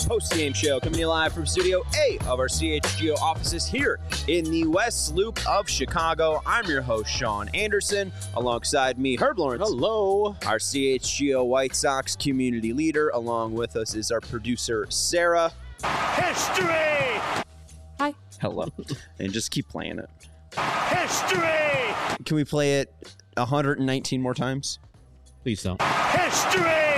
Sox post-game show coming to you live from Studio A of our CHGO offices here in the West Loop of Chicago. I'm your host, Sean Anderson. Alongside me, Herb Lawrence. Hello. Our CHGO White Sox community leader. Along with us is our producer, Sarah. History! Hi. Hello. And just keep playing it. History! Can we play it 119 more times? Please don't. History!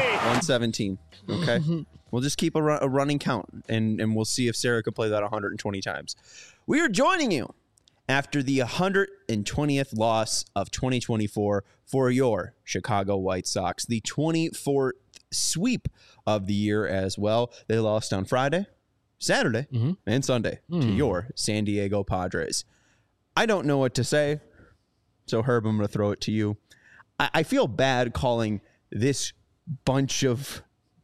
117. Okay. We'll just keep a running count, and we'll see if Sarah could play that 120 times. We are joining you after the 120th loss of 2024 for your Chicago White Sox, the 24th sweep of the year as well. They lost on Friday, Saturday, and Sunday to your San Diego Padres. I don't know what to say, so Herb, I'm going to throw it to you. I feel bad calling this bunch of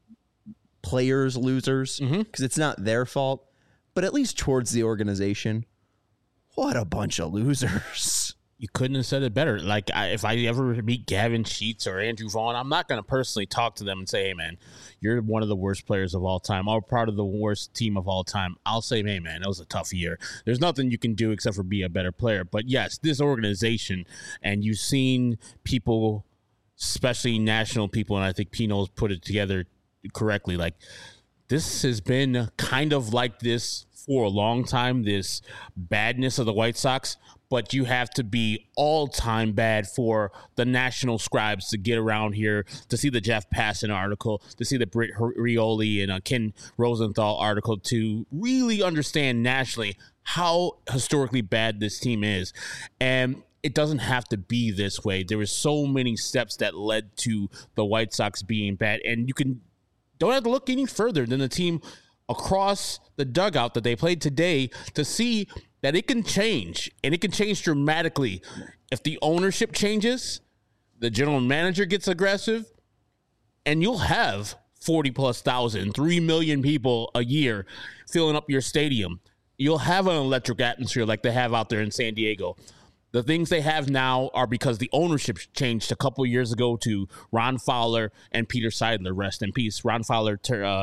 players losers because it's not their fault, but at least towards the organization, what a bunch of losers. You couldn't have said it better. Like, if I ever meet Gavin Sheets or Andrew Vaughn, I'm not going to personally talk to them and say, hey, man, you're one of the worst players of all time, or part of the worst team of all time. I'll say, hey, man, that was a tough year. There's nothing you can do except for be a better player. But, yes, this organization, and you've seen people, especially national people, and I think Pino's put it together correctly, like, this has been kind of like this for a long time, this badness of the White Sox, but you have to be all-time bad for the national scribes to get around here, to see the Jeff Passan article, to see the Britt Rioli and Ken Rosenthal article, to really understand nationally how historically bad this team is. And it doesn't have to be this way. There were so many steps that led to the White Sox being bad, and you don't have to look any further than the team across the dugout that they played today to see that it can change, and it can change dramatically. If the ownership changes, the general manager gets aggressive, and you'll have 40+ thousand, 3 million people a year filling up your stadium. You'll have an electric atmosphere like they have out there in San Diego. The things they have now are because the ownership changed a couple years ago to Ron Fowler and Peter Seidler. Rest in peace. Ron Fowler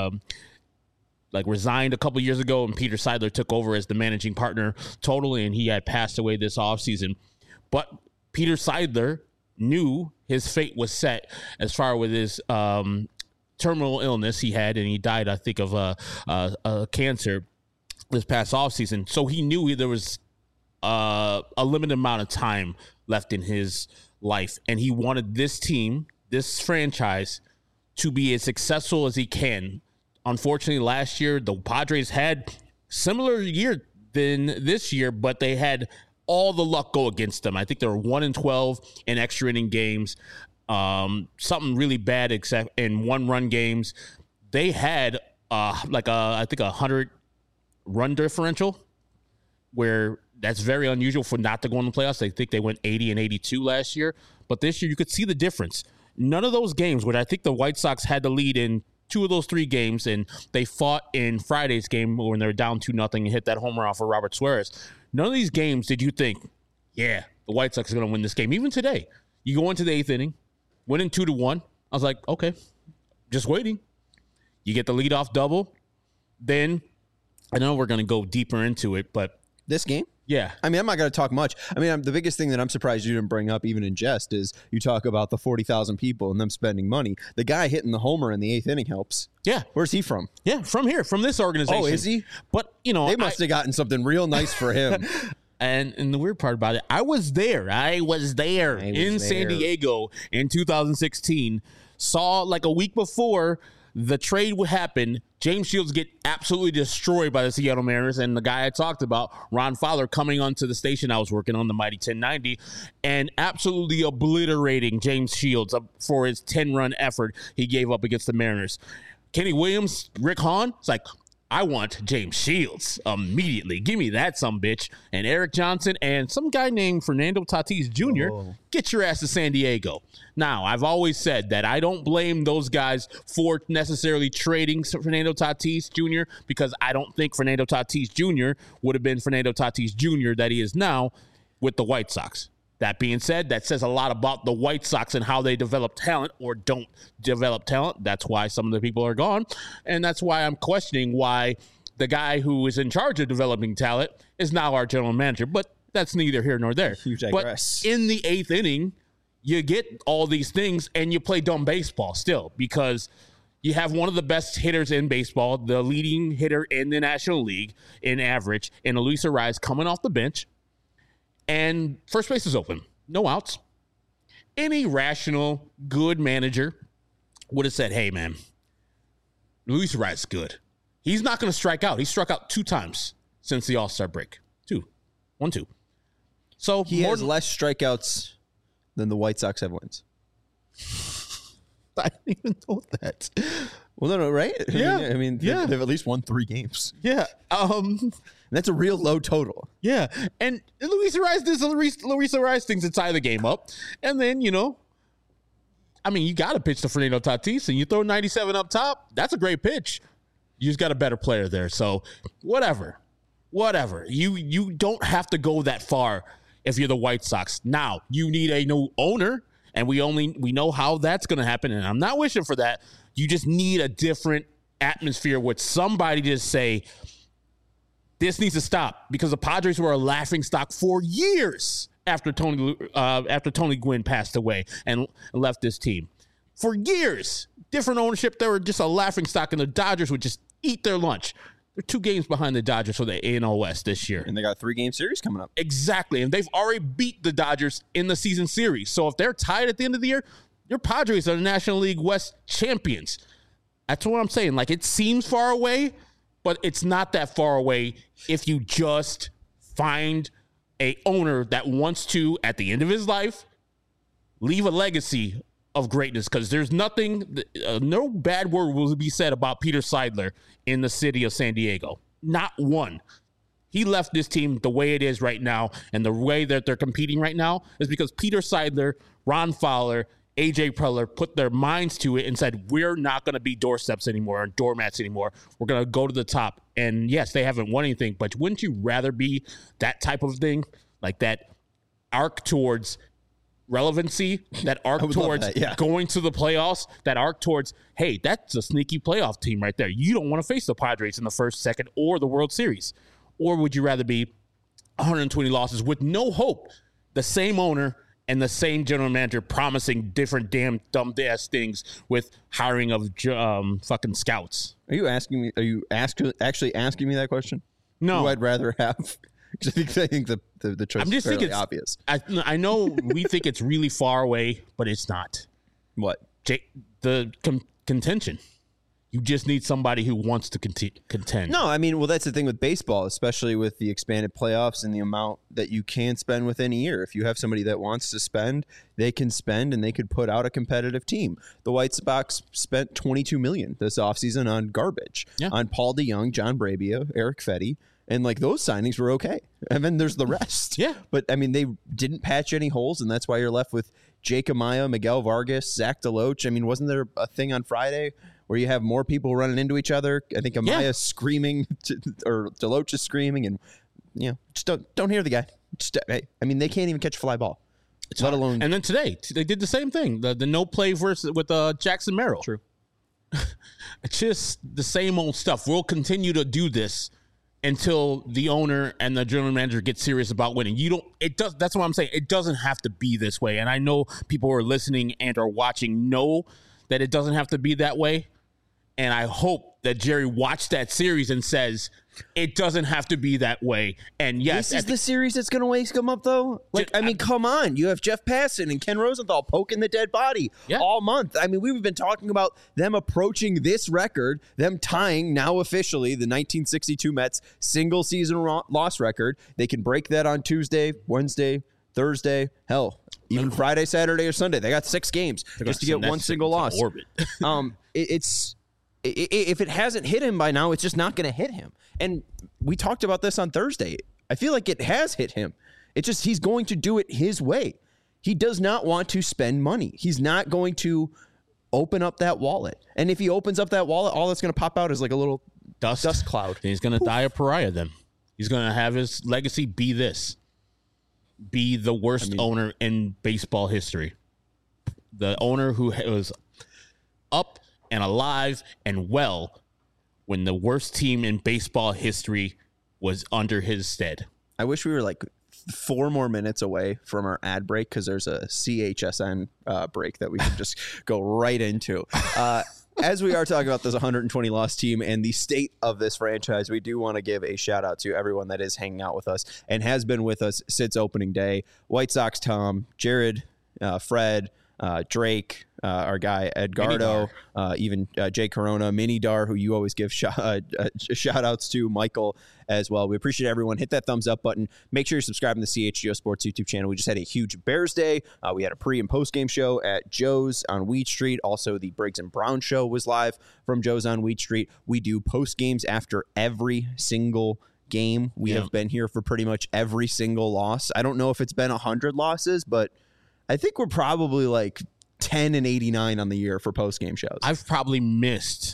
resigned a couple years ago, and Peter Seidler took over as the managing partner totally, and he had passed away this offseason. But Peter Seidler knew his fate was set as far with his terminal illness he had, and he died, I think, of cancer this past offseason. So he knew there was a limited amount of time left in his life, and he wanted this team, this franchise, to be as successful as he can. Unfortunately, last year, the Padres had similar year than this year, but they had all the luck go against them. I think they were 1-12 in extra inning games, something really bad except in one-run games. They had I think 100 run differential, where that's very unusual for not to go in the playoffs. I think they went 80 and 82 last year, but this year you could see the difference. None of those games, where I think the White Sox had the lead in 2 of those 3 games, and they fought in Friday's game when they were down 2-0 and hit that homer off of Robert Suarez. None of these games did you think, yeah, the White Sox are going to win this game. Even today, you go into the 8th inning, winning 2-1. I was like, okay, just waiting. You get the leadoff double. Then, I know we're going to go deeper into it, but This game? yeah. I mean, I'm not going to talk much. I mean, the biggest thing that I'm surprised you didn't bring up, even in jest, is you talk about the 40,000 people and them spending money. The guy hitting the homer in the 8th inning helps. Yeah. Where's he from? Yeah, from here, from this organization. Oh, is he? But, They must have gotten something real nice for him. And the weird part about it, I was there in San Diego in 2016. Saw like a week before the trade would happen, James Shields get absolutely destroyed by the Seattle Mariners, and the guy I talked about, Ron Fowler, coming onto the station I was working on, the Mighty 1090, and absolutely obliterating James Shields for his 10-run effort he gave up against the Mariners. Kenny Williams, Rick Hahn, it's like, I want James Shields immediately. Give me that sumbitch. And Eric Johnson and some guy named Fernando Tatis Jr., Get your ass to San Diego. Now, I've always said that I don't blame those guys for necessarily trading Fernando Tatis Jr. because I don't think Fernando Tatis Jr. would have been Fernando Tatis Jr. that he is now with the White Sox. That being said, that says a lot about the White Sox and how they develop talent or don't develop talent. That's why some of the people are gone. And that's why I'm questioning why the guy who is in charge of developing talent is now our general manager. But that's neither here nor there. You digress. But in the 8th inning, you get all these things and you play dumb baseball still because you have one of the best hitters in baseball, the leading hitter in the National League in average, and Luis Arraez coming off the bench. And first base is open. No outs. Any rational, good manager would have said, hey, man, Luis Arraez is good. He's not going to strike out. He struck out 2 times since the All-Star break. 2. So he has less strikeouts than the White Sox have wins. I didn't even know that. Well, no, right? Yeah. I mean, yeah. They've at least won 3 games. Yeah. And that's a real low total. Yeah. And Luis Arraez does Luis Arraez things inside the game up. And then, you got to pitch to Fernando Tatis and you throw 97 up top. That's a great pitch. You just got a better player there. So whatever. You don't have to go that far if you're the White Sox. Now, you need a new owner. And we know how that's going to happen. And I'm not wishing for that. You just need a different atmosphere with somebody to say, this needs to stop, because the Padres were a laughing stock for years after Tony Gwynn passed away and left this team. For years, different ownership, they were just a laughing stock, and the Dodgers would just eat their lunch. They're 2 games behind the Dodgers for the AL West this year. And they got a 3-game series coming up. Exactly, and they've already beat the Dodgers in the season series. So if they're tied at the end of the year, your Padres are the National League West champions. That's what I'm saying. Like, it seems far away, but it's not that far away if you just find a owner that wants to, at the end of his life, leave a legacy of greatness, because there's nothing, no bad word will be said about Peter Seidler in the city of San Diego. Not one. He left this team the way it is right now, and the way that they're competing right now is because Peter Seidler, Ron Fowler, AJ Preller put their minds to it and said, we're not going to be doorsteps anymore and doormats anymore. We're going to go to the top. And yes, they haven't won anything, but wouldn't you rather be that type of thing? Like that arc towards relevancy, that arc towards going to the playoffs, that arc towards, hey, that's a sneaky playoff team right there. You don't want to face the Padres in the first, second, or the World Series. Or would you rather be 120 losses with no hope, the same owner and the same general manager promising different damn dumb-ass things with hiring of fucking scouts? Are you asking me? Are you actually asking me that question? No. Who I'd rather have? Because I think the choice is fairly obvious. I know we think it's really far away, but it's not. What? The contention. You just need somebody who wants to contend. No, I mean, well, that's the thing with baseball, especially with the expanded playoffs and the amount that you can spend within a year. If you have somebody that wants to spend, they can spend, and they could put out a competitive team. The White Sox spent $22 million this offseason on garbage, on Paul DeYoung, John Brabia, Eric Fetty, and like those signings were okay. And then there's the rest. Yeah. But I mean, they didn't patch any holes, and that's why you're left with Jake Amaya, Miguel Vargas, Zach DeLoach. I mean, wasn't there a thing on Friday where you have more people running into each other? I think Amaya's screaming, or DeLoach is screaming, and just don't hear the guy. I mean, they can't even catch a fly ball. Let alone. And then today they did the same thing. The no play with Jackson Merrill. True. It's just the same old stuff. We'll continue to do this until the owner and the general manager get serious about winning. That's what I'm saying. It doesn't have to be this way. And I know people who are listening and are watching know that it doesn't have to be that way. And I hope that Jerry watched that series and says, it doesn't have to be that way. And yes, this is the series that's going to wake them up, though. Like, I mean, come on. You have Jeff Passan and Ken Rosenthal poking the dead body all month. I mean, we've been talking about them approaching this record, them tying now officially the 1962 Mets single season loss record. They can break that on Tuesday, Wednesday, Thursday, hell, even Friday, Saturday, or Sunday. They got 6 games just to get one single loss. If it hasn't hit him by now, it's just not going to hit him. And we talked about this on Thursday. I feel like it has hit him. It's just he's going to do it his way. He does not want to spend money. He's not going to open up that wallet. And if he opens up that wallet, all that's going to pop out is like a little dust cloud. And he's going to die a pariah then. He's going to have his legacy be this. be the worst owner in baseball history. The owner who was up and alive and well when the worst team in baseball history was under his stead. I wish we were like 4 more minutes away from our ad break because there's a CHSN break that we could just go right into. As we are talking about this 120 loss team and the state of this franchise, we do want to give a shout out to everyone that is hanging out with us and has been with us since opening day. White Sox Tom, Jared, Fred, Drake, our guy Edgardo, even Jay Corona, Mini Dar, who you always give shout outs to, Michael as well. We appreciate everyone. Hit that thumbs up button. Make sure you're subscribing to the CHGO Sports YouTube channel. We just had a huge Bears Day. We had a pre and post game show at Joe's on Wheat Street. Also, the Briggs and Brown show was live from Joe's on Wheat Street. We do post games after every single game. We have been here for pretty much every single loss. I don't know if it's been 100 losses, but I think we're probably like 10 and 89 on the year for post-game shows. I've probably missed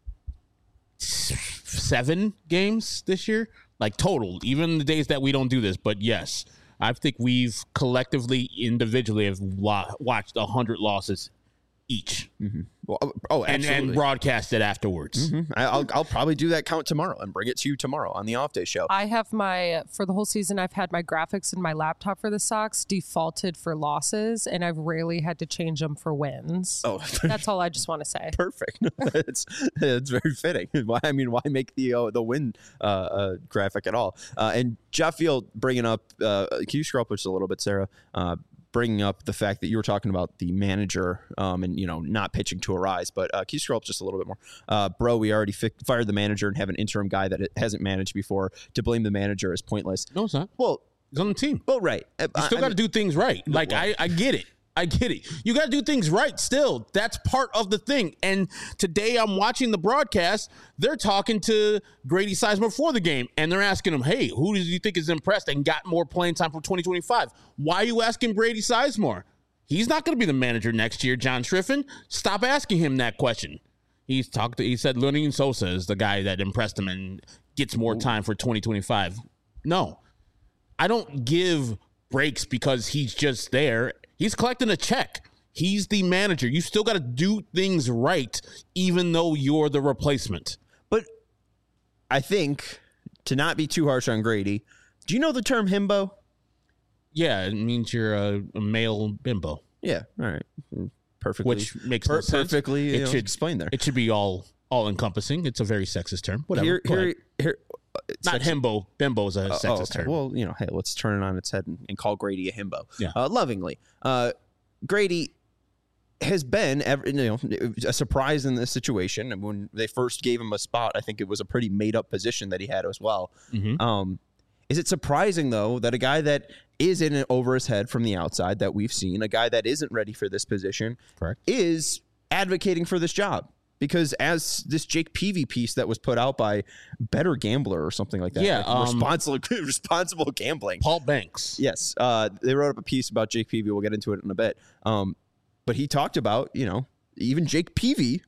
7 games this year, like total, even the days that we don't do this. But yes, I think we've collectively, individually, have watched 100 losses each. Mm-hmm. Well, and broadcast it afterwards. Mm-hmm. I'll probably do that count tomorrow and bring it to you tomorrow on the off day show. I have for the whole season, I've had my graphics in my laptop for the Sox defaulted for losses, and I've rarely had to change them for wins. Oh, that's all I just want to say. Perfect. It's very fitting. Why make the win graphic at all? And Jeff Field bringing up, can you scroll up just a little bit, Sarah? Bringing up the fact that you were talking about the manager and, not pitching to a rise. But can you scroll up just a little bit more? Bro, we already fired the manager and have an interim guy that hasn't managed before. To blame the manager is pointless. No, it's not. Well, he's on the team. Well, right. You still got to do things right. Like, I get it. I get it. You got to do things right still. That's part of the thing. And today I'm watching the broadcast. They're talking to Grady Sizemore before the game, and they're asking him, hey, who do you think is impressed and got more playing time for 2025? Why are you asking Grady Sizemore? He's not going to be the manager next year, John Schriffen. Stop asking him that question. He said Lenin Sosa is the guy that impressed him and gets more time for 2025. No. I don't give breaks because he's just there. He's collecting a check. He's the manager. You still got to do things right, even though you're the replacement. But I think, to not be too harsh on Grady, do you know the term himbo? Yeah, it means you're a male bimbo. Yeah, all right. Perfectly. Which makes no sense. Perfectly explained there. It should be all encompassing. It's a very sexist term. Whatever. Here, not himbo. Bimbo is a sexist term. Well, hey, let's turn it on its head and call Grady a himbo. Yeah. Lovingly. Grady has been a surprise in this situation. And when they first gave him a spot, I think it was a pretty made up position that he had as well. Mm-hmm. Is it surprising, though, that a guy that is in it over his head from the outside that we've seen, a guy that isn't ready for this position, correct, is advocating for this job? Because as this Jake Peavy piece that was put out by Better Gambler or something like that. Yeah. Responsible gambling. Paul Banks. Yes. They wrote up a piece about Jake Peavy. We'll get into it in a bit. But he talked about, even Jake Peavy,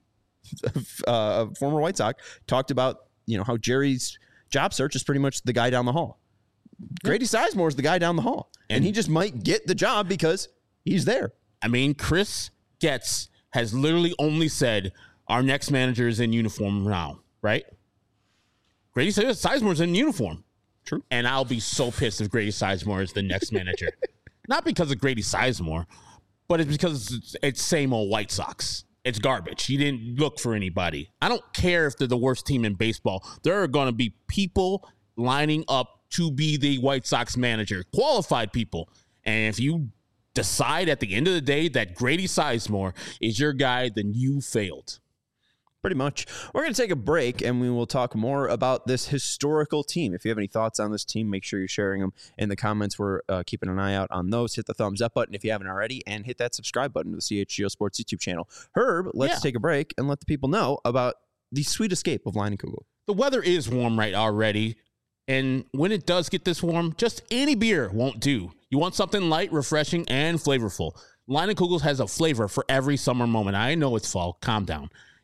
a former White Sox, talked about, how Jerry's job search is pretty much the guy down the hall. Grady Sizemore is the guy down the hall. And he just might get the job because he's there. I mean, Chris Getz has literally only said, our next manager is in uniform now, right? Grady Sizemore's in uniform. True. And I'll be so pissed if Grady Sizemore is the next manager. Not because of Grady Sizemore, but it's because it's same old White Sox. It's garbage. He didn't look for anybody. I don't care if they're the worst team in baseball. There are going to be people lining up to be the White Sox manager, qualified people. And if you decide at the end of the day that Grady Sizemore is your guy, then you failed. Pretty much. We're going to take a break, and we will talk more about this historical team. If you have any thoughts on this team, make sure you're sharing them in the comments. We're keeping an eye out on those. Hit the thumbs up button if you haven't already, and hit that subscribe button to the CHGO Sports YouTube channel. Herb, let's take a break and let the people know about the sweet escape of Leinenkugel. The weather is warm right already, and when it does get this warm, just any beer won't do. You want something light, refreshing, and flavorful. Leinenkugel has a flavor for every summer moment. I know it's fall. Calm down.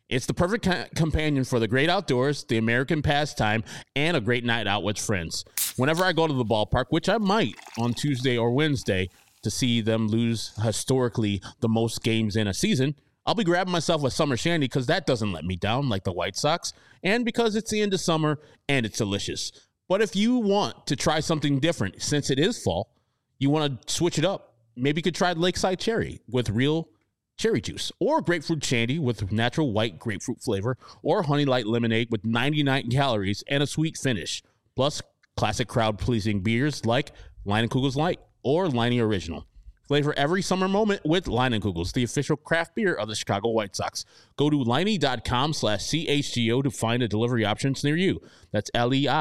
It's the perfect companion for the great outdoors, the American pastime, and a great night out with friends. Whenever I go to the ballpark, which I might on Tuesday or Wednesday to see them lose historically the most games in a season, I'll be grabbing myself a summer shandy because that doesn't let me down like the White Sox, and because it's the end of summer and it's delicious. But if you want to try something different, since it is fall, you want to switch it up, maybe you could try Lakeside Cherry with real cherry juice, or grapefruit shandy with natural white grapefruit flavor, or Honey Light lemonade with 99 calories and a sweet finish. Plus, classic crowd-pleasing beers like Leinenkugel's Light or Leinie Original. Flavor every summer moment with Leinenkugel's, the official craft beer of the Chicago White Sox. Go to Leinie.com/CHGO to find a delivery options near you. That's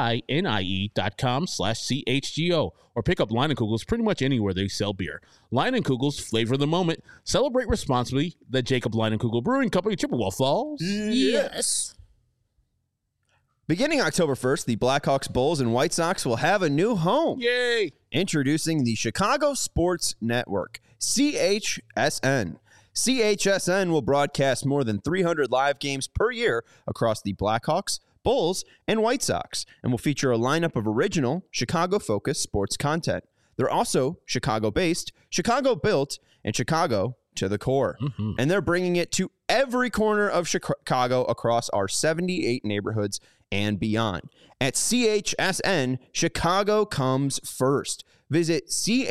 LEINIE.com/CHGO. Or pick up Leinenkugel's pretty much anywhere they sell beer. Leinenkugel's, flavor the moment. Celebrate responsibly. The Jacob Leinenkugel Brewing Company, Chippewa Falls. Yes. Beginning October 1st, the Blackhawks, Bulls, and White Sox will have a new home. Yay! Introducing the Chicago Sports Network, CHSN. CHSN will broadcast more than 300 live games per year across the Blackhawks, Bulls, and White Sox, and will feature a lineup of original, Chicago-focused sports content. They're also Chicago-based, Chicago-built, and Chicago to the core. Mm-hmm. And they're bringing it to every corner of Chicago across our 78 neighborhoods and beyond. At CHSN, Chicago comes first. Visit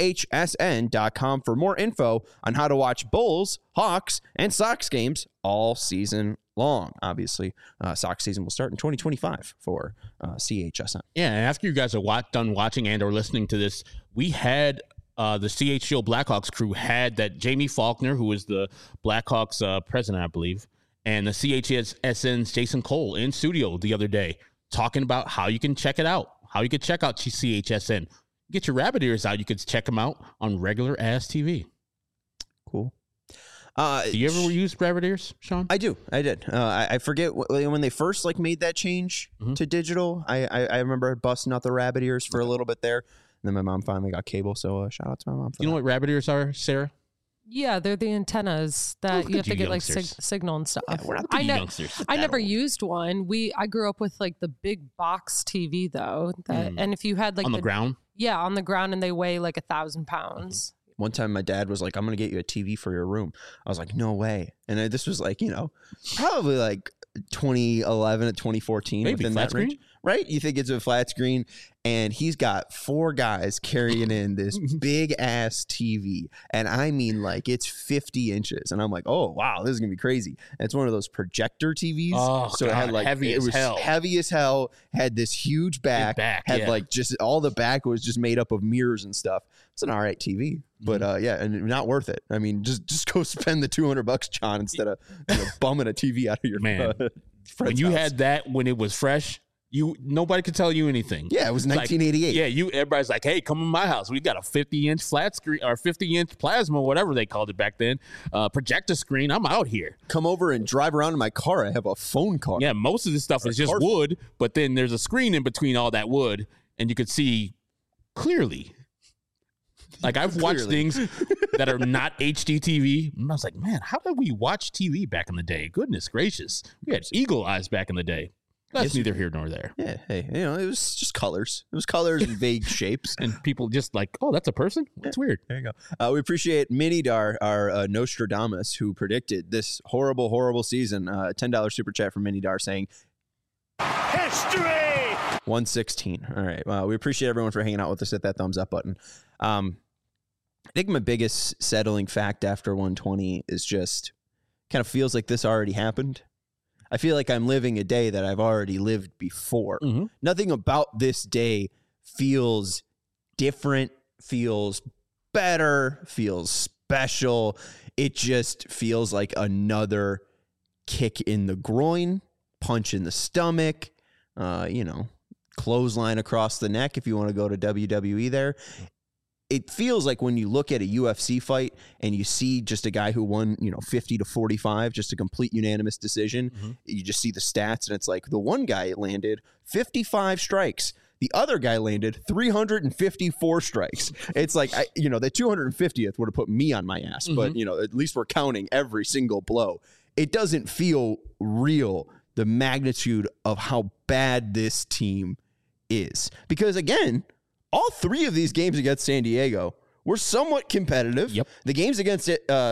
chsn.com for more info on how to watch Bulls, Hawks, and Sox games all season long. Obviously, Sox season will start in 2025 for CHSN. Yeah, and after you guys are done watching and or listening to this, we had the CHGO Blackhawks crew had that Jamie Faulkner, who was the Blackhawks president, I believe, and the CHSN's Jason Cole in studio the other day talking about how you can check it out, how you can check out CHSN. Get your rabbit ears out. You could check them out on regular ass TV. Cool. Do you ever use rabbit ears, Sean? I do. I did. I forget when they first made that change to digital. I remember busting out the rabbit ears for a little bit there. And then my mom finally got cable, so shout out to my mom for that. You know what rabbit ears are, Sarah? Yeah, they're the antennas that you have to get signal and stuff. Yeah, we're not the youngsters. I never used one. I grew up with the big box TV though, and if you had on the ground. Yeah, on the ground, and they weigh 1,000 pounds. One time my dad was like, I'm going to get you a TV for your room. I was like, no way. And this was probably 2011 to 2014. Maybe within flat that screen? range. Right? You think it's a flat screen, and he's got 4 guys carrying in this big ass TV. And I mean, it's 50 inches. And I'm like, oh, wow, this is going to be crazy. And it's one of those projector TVs. Oh, so God, it had heavy as hell. Heavy as hell, had this huge back. Just all the back was just made up of mirrors and stuff. It's an all right TV. But and not worth it. I mean, just go spend the $200, John, instead of bumming a TV out of your man. When you had that when it was fresh, nobody could tell you anything. Yeah, it was 1988. Everybody's like, hey, come in my house. We got a 50-inch flat screen or 50-inch plasma, whatever they called it back then, projector screen. I'm out here. Come over and drive around in my car. I have a phone car. Yeah, most of this stuff is just wood, but then there's a screen in between all that wood, and you could see clearly. I've watched things that are not HD TV, and I was like, man, how did we watch TV back in the day? Goodness gracious. We had eagle eyes back in the day. That's neither here nor there. Yeah, hey, it was just colors. It was colors and vague shapes. And people just oh, that's a person? That's weird. There you go. We appreciate Minidar, our Nostradamus, who predicted this horrible, horrible season. $10 super chat from Minidar saying, History! 116. All right. Well, we appreciate everyone for hanging out with us. Hit that thumbs up button. I think my biggest settling fact after 120 is just kind of feels like this already happened. I feel like I'm living a day that I've already lived before. Mm-hmm. Nothing about this day feels different, feels better, feels special. It just feels like another kick in the groin, punch in the stomach, clothesline across the neck if you want to go to WWE there. It feels like when you look at a UFC fight and you see just a guy who won, 50 to 45, just a complete unanimous decision. Mm-hmm. You just see the stats and it's like the one guy landed 55 strikes. The other guy landed 354 strikes. It's like, the 250th would have put me on my ass, mm-hmm. but, at least we're counting every single blow. it doesn't feel real, the magnitude of how bad this team is. Because again, all 3 of these games against San Diego were somewhat competitive. Yep. The games against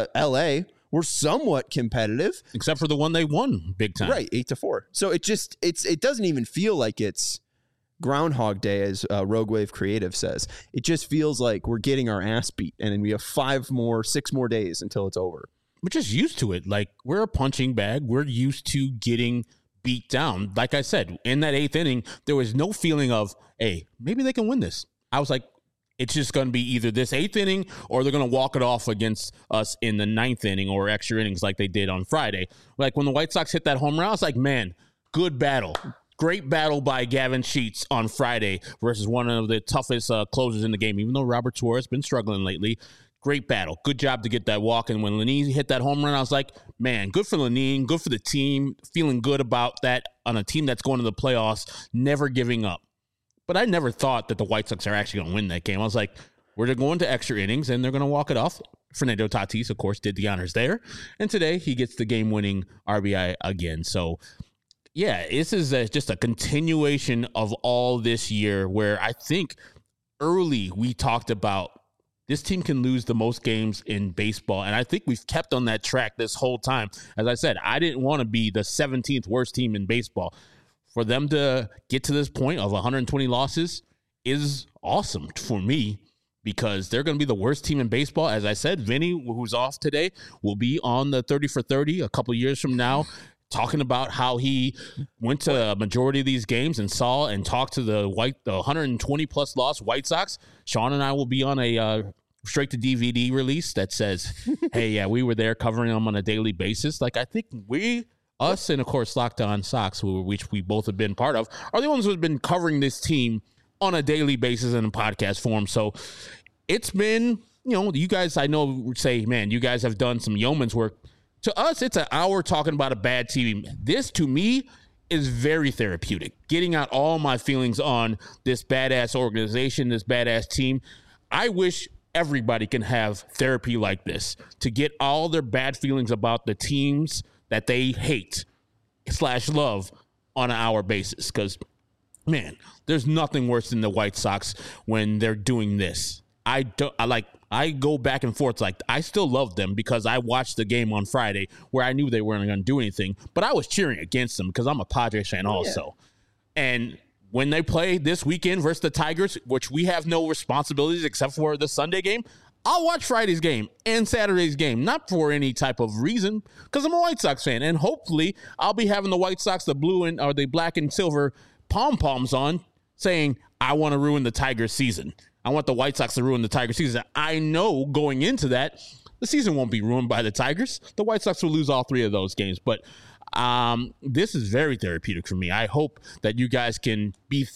LA were somewhat competitive. Except for the one they won big time. Right, 8-4. So it doesn't even feel like it's Groundhog Day, as Rogue Wave Creative says. It just feels like we're getting our ass beat, and then we have 6 more days until it's over. We're just used to it. Like, we're a punching bag. We're used to getting beat down. Like I said, in that 8th inning, there was no feeling of, hey, maybe they can win this. I was like, it's just going to be either this 8th inning or they're going to walk it off against us in the 9th inning or extra innings like they did on Friday. Like, when the White Sox hit that home run, I was like, man, good battle. Great battle by Gavin Sheets on Friday versus one of the toughest closers in the game, even though Robert Suarez has been struggling lately. Great battle. Good job to get that walk. And when Lenine hit that home run, I was like, man, good for Lenine, good for the team, feeling good about that on a team that's going to the playoffs, never giving up. But I never thought that the White Sox are actually going to win that game. I was like, we're going to extra innings, and they're going to walk it off. Fernando Tatis, of course, did the honors there. And today he gets the game-winning RBI again. So, yeah, this is just a continuation of all this year where I think early we talked about this team can lose the most games in baseball, and I think we've kept on that track this whole time. As I said, I didn't want to be the 17th worst team in baseball. For them to get to this point of 120 losses is awesome for me because they're going to be the worst team in baseball. As I said, Vinny, who's off today, will be on the 30 for 30 a couple years from now, talking about how he went to a majority of these games and saw and talked to the 120-plus loss White Sox. Sean and I will be on a straight to DVD release that says, hey, yeah, we were there covering them on a daily basis. Like, I think us and, of course, Locked On Sox, which we both have been part of, are the ones who have been covering this team on a daily basis in a podcast form. So it's been, you guys, I know, would say, man, you guys have done some yeoman's work. To us, it's an hour talking about a bad team. This, to me, is very therapeutic. Getting out all my feelings on this badass organization, this badass team. I wish everybody can have therapy like this to get all their bad feelings about the teams that they hate / love on an hour basis. Because, man, there's nothing worse than the White Sox when they're doing this. I go back and forth. Like, I still love them because I watched the game on Friday where I knew they weren't going to do anything, but I was cheering against them because I'm a Padres fan also. Yeah. And when they play this weekend versus the Tigers, which we have no responsibilities except for the Sunday game, I'll watch Friday's game and Saturday's game, not for any type of reason, because I'm a White Sox fan, and hopefully I'll be having the White Sox, the blue and or the black and silver pom-poms on, saying I want to ruin the Tigers season. I want the White Sox to ruin the Tigers season. I know going into that, the season won't be ruined by the Tigers. The White Sox will lose all 3 of those games, but this is very therapeutic for me. I hope that you guys can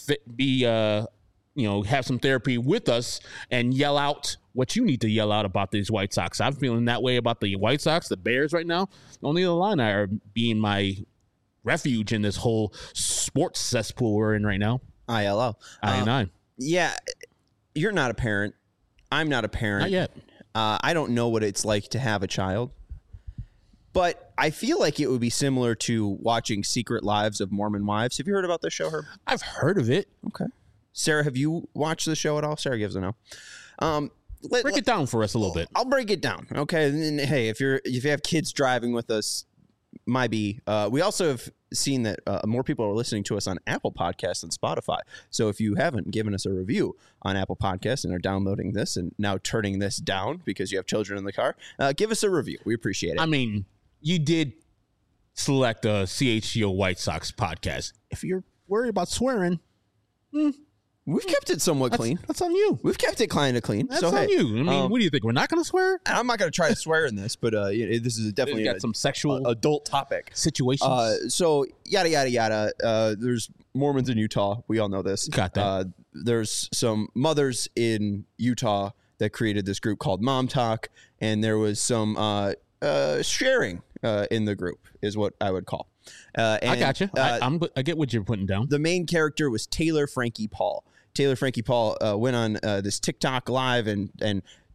have some therapy with us and yell out what you need to yell out about these White Sox. I'm feeling that way about the White Sox, the Bears right now. Only the Illini are being my refuge in this whole sports cesspool we're in right now. ILO. I-9. Yeah, you're not a parent. I'm not a parent. Not yet. I don't know what it's like to have a child. But I feel like it would be similar to watching Secret Lives of Mormon Wives. Have you heard about this show, Herb? I've heard of it. Okay. Sarah, have you watched the show at all? Sarah gives a no. Break it down for us a little bit. I'll break it down. Okay. And hey, if you have kids driving with us, we also have seen that more people are listening to us on Apple Podcasts than Spotify. So if you haven't given us a review on Apple Podcasts and are downloading this and now turning this down because you have children in the car, give us a review. We appreciate it. I mean, you did select a CHGO White Sox podcast. If you're worried about swearing, we've kept it somewhat clean. That's on you. We've kept it kind of clean. That's on you. I mean, what do you think? We're not going to swear? I'm not going to try to swear in this, but this is definitely got some sexual adult topic situations. So yada yada yada. There's Mormons in Utah. We all know this. Got that. There's some mothers in Utah that created this group called Mom Talk, and there was some sharing in the group, is what I would call. I got you. I get what you're putting down. The main character was Taylor Frankie Paul. Taylor Frankie Paul went on this TikTok live and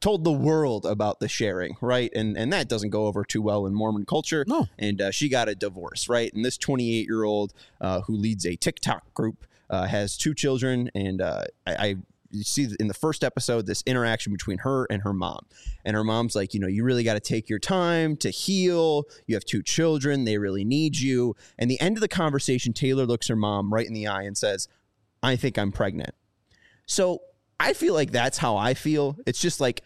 told the world about the sharing, right? And that doesn't go over too well in Mormon culture. No. And she got a divorce, right? And this 28-year-old who leads a TikTok group has 2 children, and you see in the first episode this interaction between her and her mom. And her mom's like, you really got to take your time to heal. You have 2 children. They really need you. And the end of the conversation, Taylor looks her mom right in the eye and says, I think I'm pregnant. So I feel like that's how I feel. It's just like,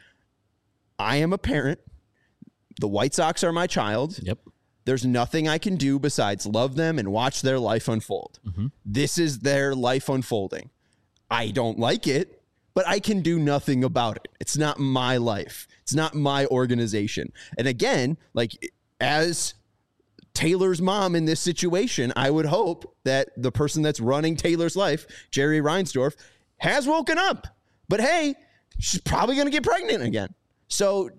I am a parent. The White Sox are my child. Yep. There's nothing I can do besides love them and watch their life unfold. Mm-hmm. This is their life unfolding. I don't like it, but I can do nothing about it. It's not my life. It's not my organization. And again, like, as Taylor's mom in this situation, I would hope that the person that's running Taylor's life, Jerry Reinsdorf, has woken up. But hey, she's probably going to get pregnant again. So,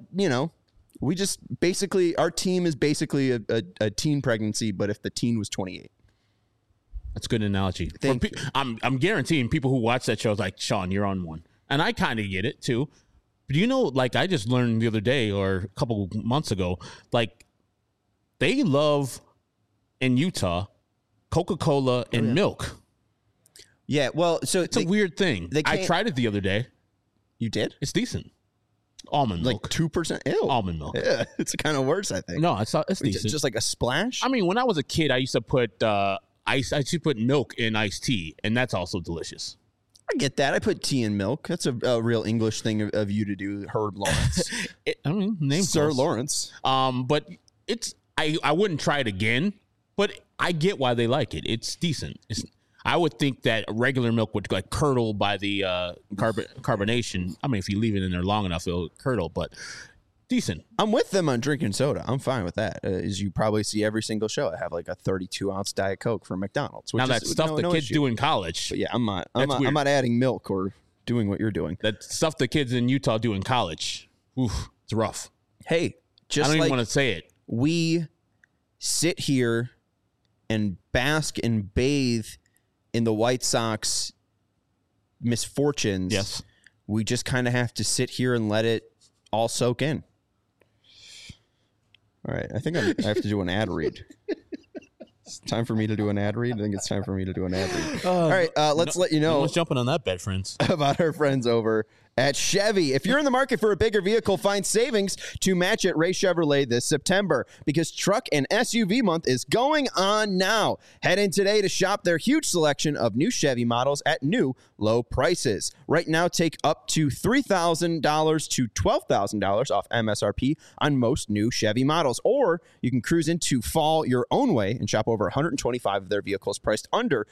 we just basically, our team is basically a teen pregnancy, but if the teen was 28. That's a good analogy. I'm guaranteeing people who watch that show is like, Sean, you're on one. And I kind of get it too. But like I just learned the other day or a couple months ago, like they love in Utah Coca-Cola and milk. Yeah, well, so it's a weird thing. I tried it the other day. You did? It's decent. Almond milk. Like 2%? Ew. Almond milk. Yeah, it's kind of worse, I think. No, it's decent. Just like a splash? I mean, when I was a kid, I used to put I used to put milk in iced tea, and that's also delicious. I get that. I put tea in milk. That's a real English thing of you to do, Herb Lawrence. Name Sir close. Lawrence. But it's I wouldn't try it again, but I get why they like it. It's decent. I would think that regular milk would like curdle by the carbonation. I mean, if you leave it in there long enough, it'll curdle, but decent. I'm with them on drinking soda. I'm fine with that. As you probably see every single show, I have like a 32-ounce Diet Coke from McDonald's. Now that's stuff the kids do in college. But yeah, I'm not adding milk or doing what you're doing. That stuff the kids in Utah do in college. Oof, it's rough. Hey, I don't even want to say it. We sit here and bask and bathe in the White Sox misfortunes. Yes. We just kind of have to sit here and let it all soak in. All right. I think I have to do an ad read. It's time for me to do an ad read. I think it's time for me to do an ad read. All right. Let's let you know. No one's jumping on that bed, friends. About our friends over at Chevy. If you're in the market for a bigger vehicle, find savings to match at Ray Chevrolet this September, because Truck and SUV Month is going on now. Head in today to shop their huge selection of new Chevy models at new low prices. Right now, take up to $3,000 to $12,000 off MSRP on most new Chevy models. Or you can cruise into fall your own way and shop over 125 of their vehicles priced under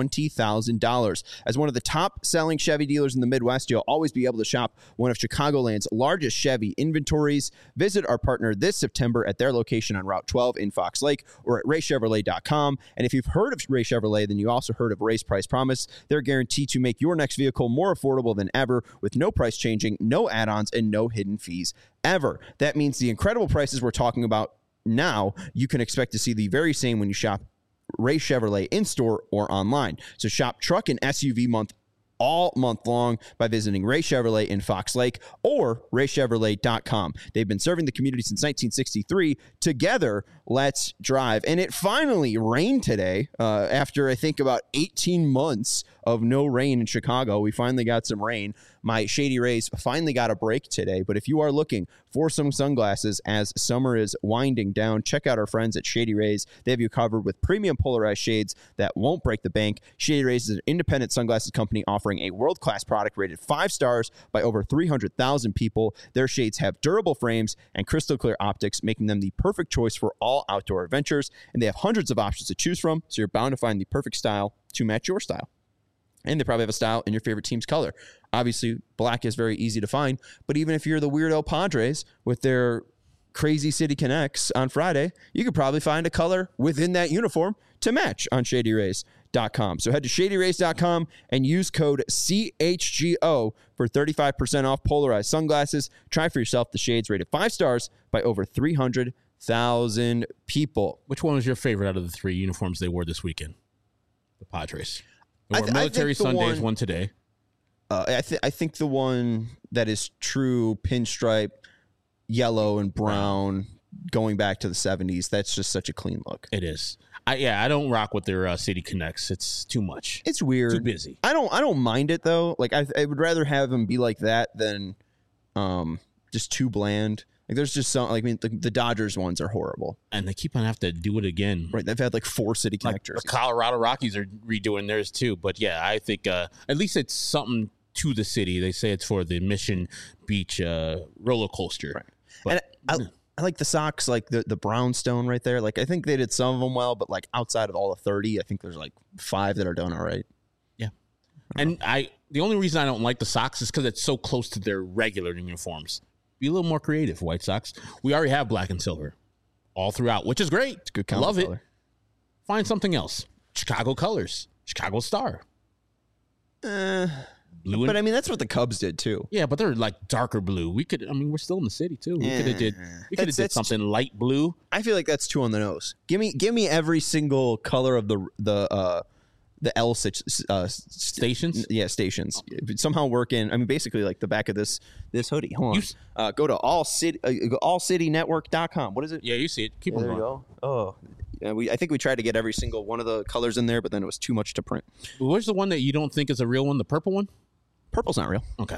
$20,000. As one of the top selling Chevy dealers in the Midwest, you'll always be able to shop one of Chicagoland's largest Chevy inventories. Visit our partner this September at their location on Route 12 in Fox Lake or at raychevrolet.com. And if you've heard of Ray Chevrolet, then you also heard of Ray's Price Promise. They're guaranteed to make your next vehicle more affordable than ever, with no price changing, no add-ons, and no hidden fees ever. That means the incredible prices we're talking about now, you can expect to see the very same when you shop Ray Chevrolet in-store or online. So shop Truck and SUV Month all month long by visiting Ray Chevrolet in Fox Lake or raychevrolet.com. They've been serving the community since 1963. Together, let's drive. And it finally rained today after, I think, about 18 months of no rain in Chicago. We finally got some rain. My Shady Rays finally got a break today. But if you are looking for some sunglasses as summer is winding down, check out our friends at Shady Rays. They have you covered with premium polarized shades that won't break the bank. Shady Rays is an independent sunglasses company offering a world-class product rated 5 stars by over 300,000 people. Their shades have durable frames and crystal clear optics, making them the perfect choice for all outdoor adventures. And they have hundreds of options to choose from, so you're bound to find the perfect style to match your style. And they probably have a style in your favorite team's color. Obviously, black is very easy to find, but even if you're the weirdo Padres with their Crazy City Connects on Friday, you could probably find a color within that uniform to match on ShadyRays.com. So head to ShadyRays.com and use code CHGO for 35% off polarized sunglasses. Try for yourself the shades rated 5 stars by over 300,000 people. Which one was your favorite out of the 3 uniforms they wore this weekend? The Padres. There were Military Sundays, one today. I think the one that is true pinstripe, yellow and brown, going back to the 70s, that's just such a clean look. It is. I don't rock with their City Connects. It's too much. It's weird. Too busy. I don't mind it though. Like I would rather have them be like that than just too bland. Like there's just some, like, I mean, the Dodgers ones are horrible, and they keep on having to do it again. Right? They've had like 4 City Connect The jerseys. Colorado Rockies are redoing theirs too. But yeah, I think at least it's something to the city. They say it's for the Mission Beach roller coaster. Right. But, And I like the Sox, like the brownstone right there. Like I think they did some of them well, but like outside of all the 30, I think there's like 5 that are done all right. Yeah. And the only reason I don't like the Sox is because it's so close to their regular uniforms. Be a little more creative, White Sox. We already have black and silver all throughout, which is great. It's good. Love it. Color. Find something else. Chicago colors. Chicago Star. Blue. But I mean, that's what the Cubs did too. Yeah, but they're like darker blue. We're still in the city too. We could have did something light blue. I feel like that's too on the nose. Give me every single color of the L Stations. Yeah, stations. Somehow work in. I mean, basically like the back of this hoodie. Hold on. Go to allcitynetwork.com. What is it? Yeah, you see it. Keep on There going. you go. Oh. Yeah, I think we tried to get every single one of the colors in there, but then it was too much to print. Where's the one that you don't think is a real one? The purple one? Purple's not real. Okay.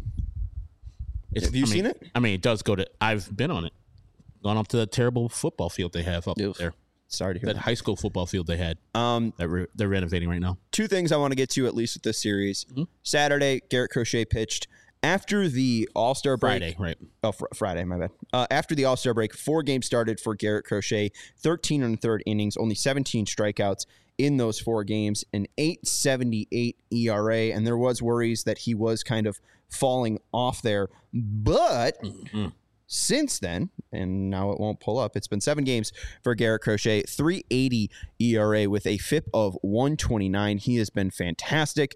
Have you seen it? I mean, it does go to. I've been on it. Gone up to the terrible football field they have up there. Sorry to hear That that. high school football field they had. That they're renovating right now. 2 things I want to get to at least with this series. Mm-hmm. Saturday, Garrett Crochet pitched. After the All-Star break. Friday, right. Oh, Friday, my bad. After the All-Star break, 4 games started for Garrett Crochet, 13 and a third innings, only 17 strikeouts in those 4 games, an 8.78 ERA, and there was worries that he was kind of falling off there. But since then, and now it won't pull up, it's been 7 games for Garrett Crochet, 3.80 ERA with a FIP of 129. He has been fantastic.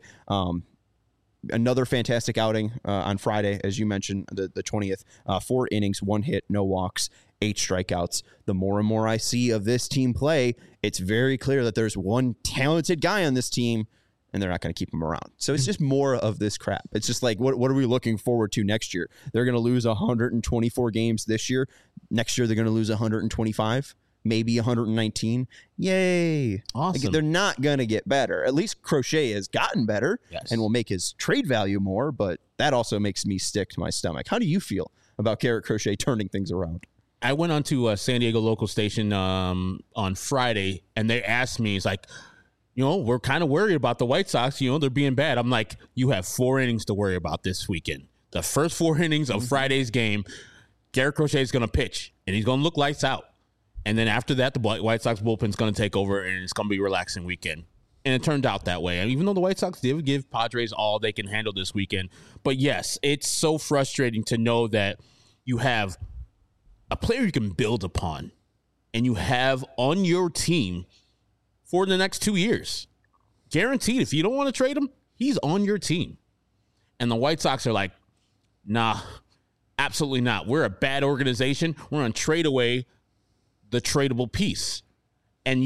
Another fantastic outing on Friday, as you mentioned, the 20th. 4 innings, 1 hit, no walks, 8 strikeouts. The more and more I see of this team play, it's very clear that there's one talented guy on this team, and they're not going to keep him around. So it's just more of this crap. It's just like, what are we looking forward to next year? They're going to lose 124 games this year. Next year, they're going to lose 125. Maybe 119. Yay. Awesome. Like, they're not going to get better. At least Crochet has gotten better and will make his trade value more, but that also makes me sick to my stomach. How do you feel about Garrett Crochet turning things around? I went on to a San Diego local station on Friday, and they asked me, it's like, we're kind of worried about the White Sox. They're being bad. I'm like, you have 4 innings to worry about this weekend. The first 4 innings of Friday's game, Garrett Crochet is going to pitch, and he's going to look lights out. And then after that, the White Sox bullpen's going to take over, and it's going to be a relaxing weekend. And it turned out that way. And even though the White Sox did give Padres all they can handle this weekend. But yes, it's so frustrating to know that you have a player you can build upon, and you have on your team for the next 2 years. Guaranteed, if you don't want to trade him, he's on your team. And the White Sox are like, nah, absolutely not. We're a bad organization. We're going to trade away the tradable piece. And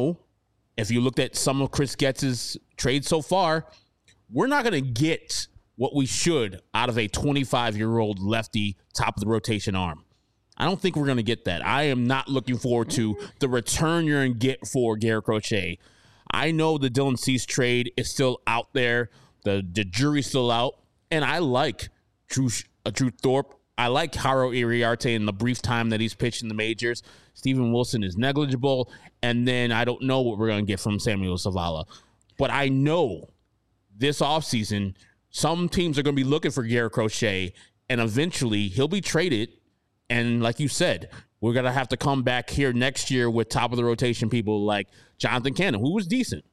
if you looked at some of Chris Getz's trades so far, we're not going to get what we should out of a 25-year-old lefty top of the rotation arm. I don't think we're going to get that. I am not looking forward to the return you're going to get for Garrett Crochet. I know the Dylan Cease trade is still out there. The jury's still out. And I like Drew Thorpe. I like Haro Iriarte in the brief time that he's pitched in the majors. Steven Wilson is negligible. And then I don't know what we're going to get from Samuel Zavala. But I know this offseason, some teams are going to be looking for Garrett Crochet, and eventually he'll be traded. And like you said, we're going to have to come back here next year with top-of-the-rotation people like Jonathan Cannon, who was decent.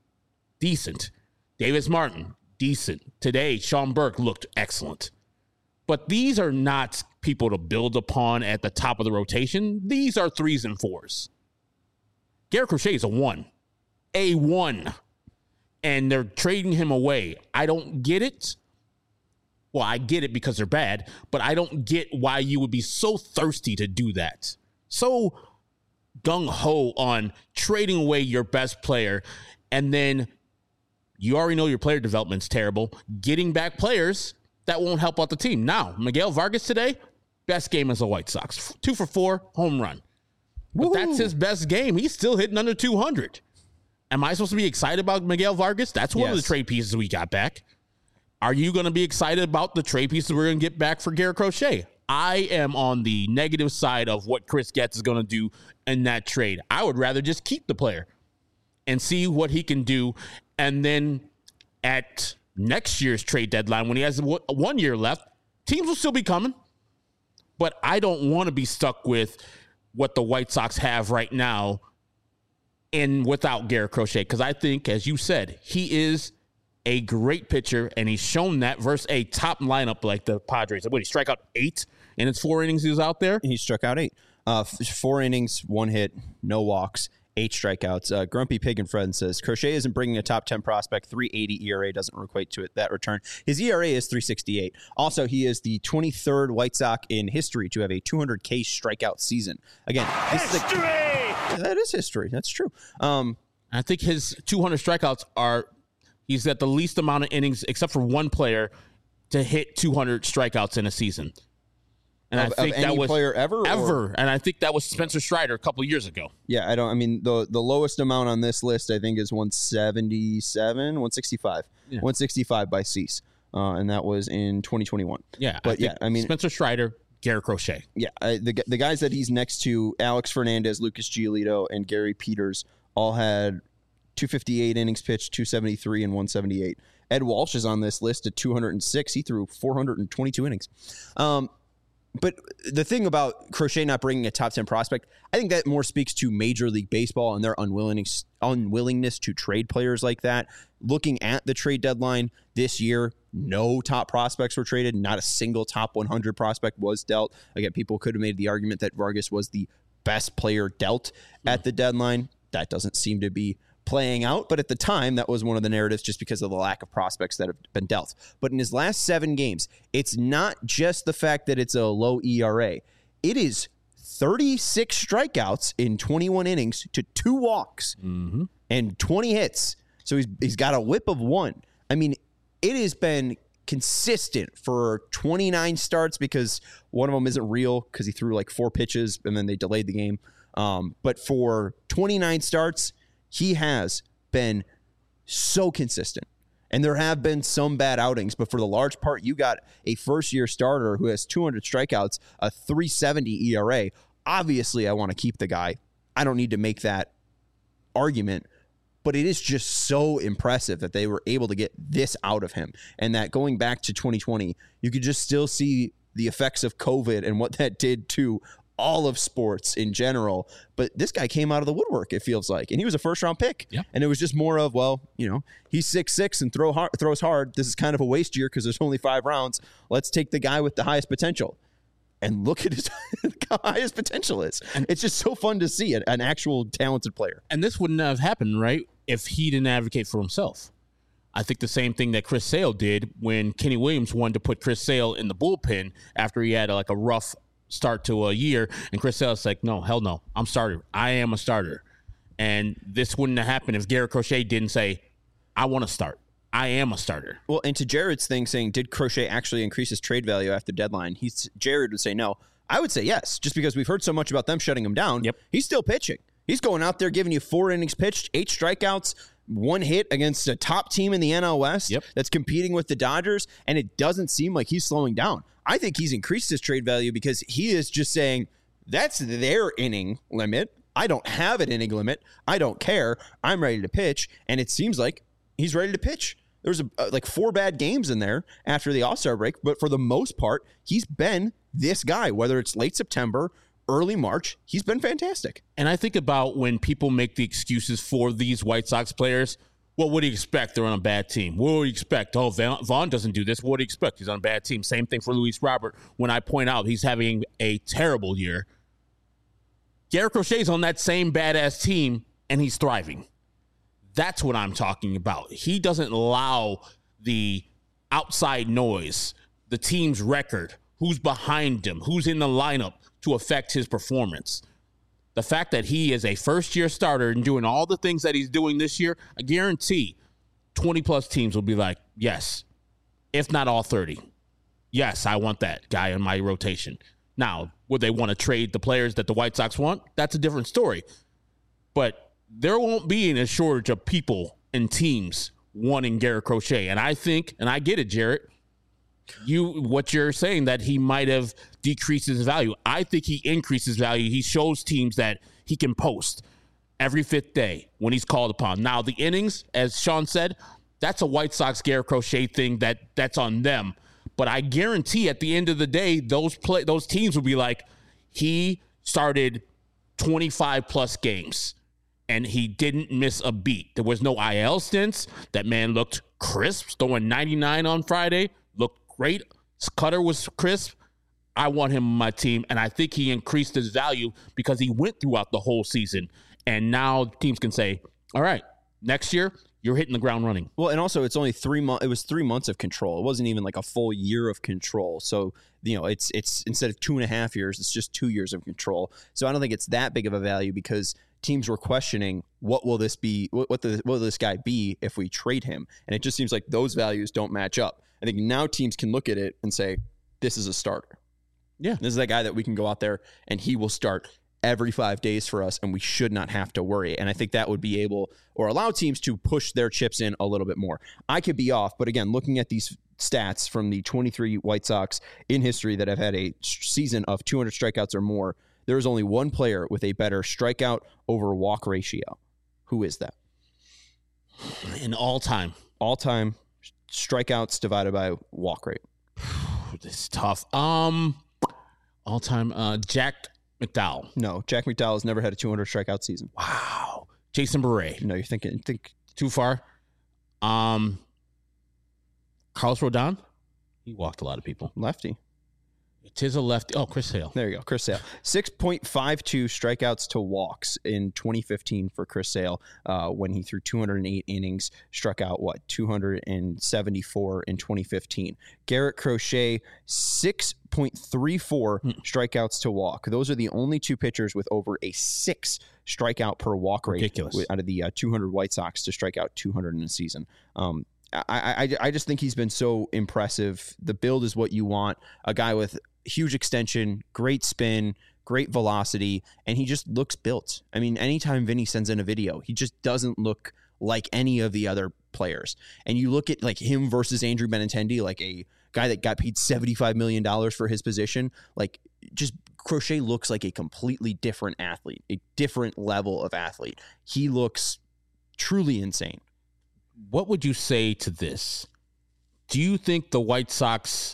Davis Martin, decent. Today, Sean Burke looked excellent. But these are not people to build upon at the top of the rotation. These are 3s and 4s. Garrett Crochet is a 1. A 1. And they're trading him away. I don't get it. Well, I get it because they're bad, but I don't get why you would be so thirsty to do that. So gung-ho on trading away your best player and then You already know your player development's terrible. Getting back players, that won't help out the team. Now, Miguel Vargas today, best game as a White Sox. 2 for 4, home run. But that's his best game. He's still hitting under 200. Am I supposed to be excited about Miguel Vargas? That's one of the trade pieces we got back. Are you going to be excited about the trade pieces we're going to get back for Garrett Crochet? I am on the negative side of what Chris Getz is going to do in that trade. I would rather just keep the player and see what he can do. And then at next year's trade deadline, when he has 1 year left, teams will still be coming. But I don't want to be stuck with what the White Sox have right now and without Garrett Crochet. Because I think, as you said, he is a great pitcher, and he's shown that versus a top lineup like the Padres. What, he struck out 8 in his 4 innings he was out there? He struck out 8. 4 innings, 1 hit, no walks, 8 strikeouts. Grumpy Pig and Friend says, Crochet isn't bringing a top 10 prospect. 3.80 ERA doesn't equate to that return. His ERA is 3.68. Also, he is the 23rd White Sox in history to have a 200K strikeout season. Again, that is history. That's true. I think his 200 strikeouts he's got the least amount of innings, except for one player, to hit 200 strikeouts in a season. And I think that was player ever. And I think that was Spencer Strider a couple of years ago. Yeah, the lowest amount on this list I think is 165. Yeah. 165 by Cease. And that was in 2021. Yeah, but Spencer Strider, Garrett Crochet. Yeah, the guys that he's next to, Alex Fernandez, Lucas Giolito, and Gary Peters, all had 258 innings pitched, 273 and 178. Ed Walsh is on this list at 206. He threw 422 innings. But the thing about Crochet not bringing a top 10 prospect, I think that more speaks to Major League Baseball and their unwillingness to trade players like that. Looking at the trade deadline this year, no top prospects were traded. Not a single top 100 prospect was dealt. Again, people could have made the argument that Vargas was the best player dealt at the deadline. That doesn't seem to be playing out, but at the time, that was one of the narratives just because of the lack of prospects that have been dealt. But in his last 7 games, it's not just the fact that it's a low ERA. It is 36 strikeouts in 21 innings to 2 walks and 20 hits. So he's got a whip of 1. I mean, it has been consistent for 29 starts because one of them isn't real because he threw like 4 pitches and then they delayed the game. But for 29 starts, he has been so consistent. And there have been some bad outings, but for the large part, you got a first-year starter who has 200 strikeouts, a 3.70 ERA. Obviously, I want to keep the guy. I don't need to make that argument, but it is just so impressive that they were able to get this out of him. And that going back to 2020, you could just still see the effects of COVID and what that did to all of sports in general, but this guy came out of the woodwork, it feels like, and he was a first-round pick. Yeah. And it was just more of, he's 6'6" and throws hard. This is kind of a waste year because there's only 5 rounds. Let's take the guy with the highest potential. And look at how high his potential is. And it's just so fun to see an actual talented player. And this wouldn't have happened, right, if he didn't advocate for himself. I think the same thing that Chris Sale did when Kenny Williams wanted to put Chris Sale in the bullpen after he had a rough start to a year, and Chris Sale's like, no, hell no, I'm starter. I am a starter. And this wouldn't have happened if Garrett Crochet didn't say, I want to start. I am a starter. Well, and to Jared's thing saying, did Crochet actually increase his trade value after deadline? Jared would say no. I would say yes, just because we've heard so much about them shutting him down. Yep. He's still pitching. He's going out there giving you 4 innings pitched, 8 strikeouts, 1 hit against a top team in the NL West that's competing with the Dodgers, and it doesn't seem like he's slowing down. I think he's increased his trade value because he is just saying, that's their inning limit. I don't have an inning limit. I don't care. I'm ready to pitch, and it seems like he's ready to pitch. There's 4 bad games in there after the All-Star break, but for the most part, he's been this guy, whether it's late September, early March, he's been fantastic. And I think about when people make the excuses for these White Sox players. Well, what do you expect? They're on a bad team. What do you expect? Oh, Vaughn doesn't do this. What do you expect? He's on a bad team. Same thing for Luis Robert. When I point out he's having a terrible year, Garrett Crochet's on that same badass team, and he's thriving. That's what I'm talking about. He doesn't allow the outside noise, the team's record, who's behind him, who's in the lineup, to affect his performance. The fact that he is a first-year starter and doing all the things that he's doing this year, I guarantee 20-plus teams will be like, yes, if not all 30. Yes, I want that guy in my rotation. Now, would they want to trade the players that the White Sox want? That's a different story. But there won't be a shortage of people and teams wanting Garrett Crochet. And I think, and I get it, Jarrett, what you're saying that he might have decreased his value. I think he increases value. He shows teams that he can post every fifth day when he's called upon. Now, the innings, as Sean said, that's a White Sox Garrett Crochet thing that's on them. But I guarantee at the end of the day, those teams will be like, he started 25-plus games, and he didn't miss a beat. There was no IL stints. That man looked crisp, throwing 99 on Friday. Looked great. His cutter was crisp. I want him on my team, and I think he increased his value because he went throughout the whole season. And now teams can say, all right, next year, you're hitting the ground running. Well, and also it's only 3 months. It was 3 months of control. It wasn't even like a full year of control. So, it's instead of 2.5 years, it's just 2 years of control. So I don't think it's that big of a value because teams were questioning what will this be? What will this guy be if we trade him? And it just seems like those values don't match up. I think now teams can look at it and say, this is a starter. Yeah. This is that guy that we can go out there and he will start every 5 days for us, and we should not have to worry. And I think that would be able or allow teams to push their chips in a little bit more. I could be off, but again, looking at these stats from the 23 White Sox in history that have had a season of 200 strikeouts or more, there is only one player with a better strikeout over walk ratio. Who is that? In all-time strikeouts divided by walk rate. This is tough. All-time Jack McDowell. No, Jack McDowell has never had a 200 strikeout season. Wow. Jason Beret. No, you're thinking too far. Carlos Rodon. He walked a lot of people. Lefty. It is a lefty. Oh, Chris Sale. There you go, Chris Sale. 6.52 strikeouts to walks in 2015 for Chris Sale when he threw 208 innings, struck out, 274 in 2015. Garrett Crochet, 6.34 strikeouts to walk. Those are the only two pitchers with over a 6 strikeout per walk rate. Ridiculous. Out of the 200 White Sox to strike out 200 in a season. I just think he's been so impressive. The build is what you want. A guy with huge extension, great spin, great velocity, and he just looks built. I mean, anytime Vinny sends in a video, he just doesn't look like any of the other players. And you look at like him versus Andrew Benintendi, like a guy that got paid $75 million for his position. Like, just Crochet looks like a completely different athlete, a different level of athlete. He looks truly insane. What would you say to this? Do you think the White Sox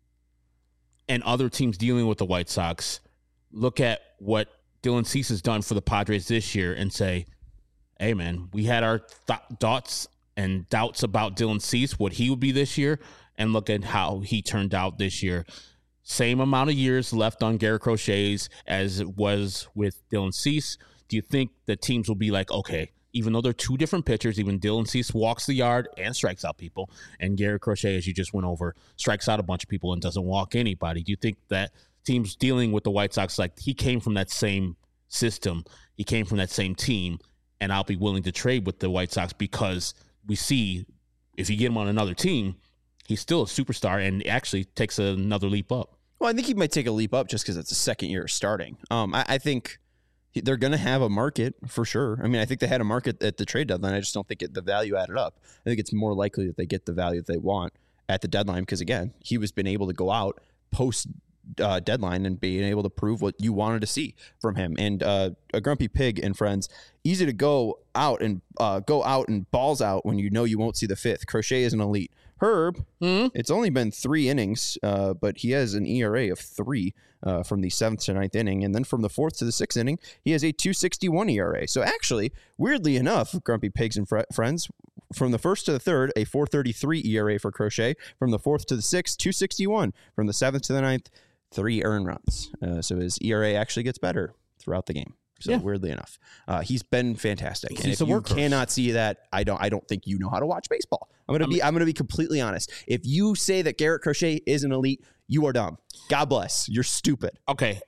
and other teams dealing with the White Sox look at what Dylan Cease has done for the Padres this year and say, hey, man, we had our thoughts and doubts about Dylan Cease, what he would be this year, and look at how he turned out this year. Same amount of years left on Garrett Crochet's as it was with Dylan Cease. Do you think the teams will be like, okay, even though they're two different pitchers, even Dylan Cease walks the yard and strikes out people, and Garrett Crochet, as you just went over, strikes out a bunch of people and doesn't walk anybody. Do you think that teams dealing with the White Sox, like he came from that same system, he came from that same team, and I'll be willing to trade with the White Sox because we see if you get him on another team, he's still a superstar and actually takes another leap up? Well, I think he might take a leap up just because it's a second year starting. I think they're going to have a market for sure. I mean, I think they had a market at the trade deadline. I just don't think the value added up. I think it's more likely that they get the value that they want at the deadline because, again, he was been able to go out post deadline and being able to prove what you wanted to see from him. And a grumpy pig and friends, easy to go out and balls out when you know you won't see the fifth. Crochet is an elite. Herb, It's only been 3 innings, but he has an ERA of 3 from the 7th to 9th inning. And then from the 4th to the 6th inning, he has a 2.61 ERA. So actually, weirdly enough, grumpy pigs and friends, from the 1st to the 3rd, a 4.33 ERA for Crochet. From the 4th to the 6th, 2.61. From the 7th to the 9th, 3 earned runs. So his ERA actually gets better throughout the game. So weirdly enough, he's been fantastic. And if you cannot see that, I don't think you know how to watch baseball. I'm gonna be completely honest. If you say that Garrett Crochet is an elite, you are dumb. God bless. You're stupid. Okay.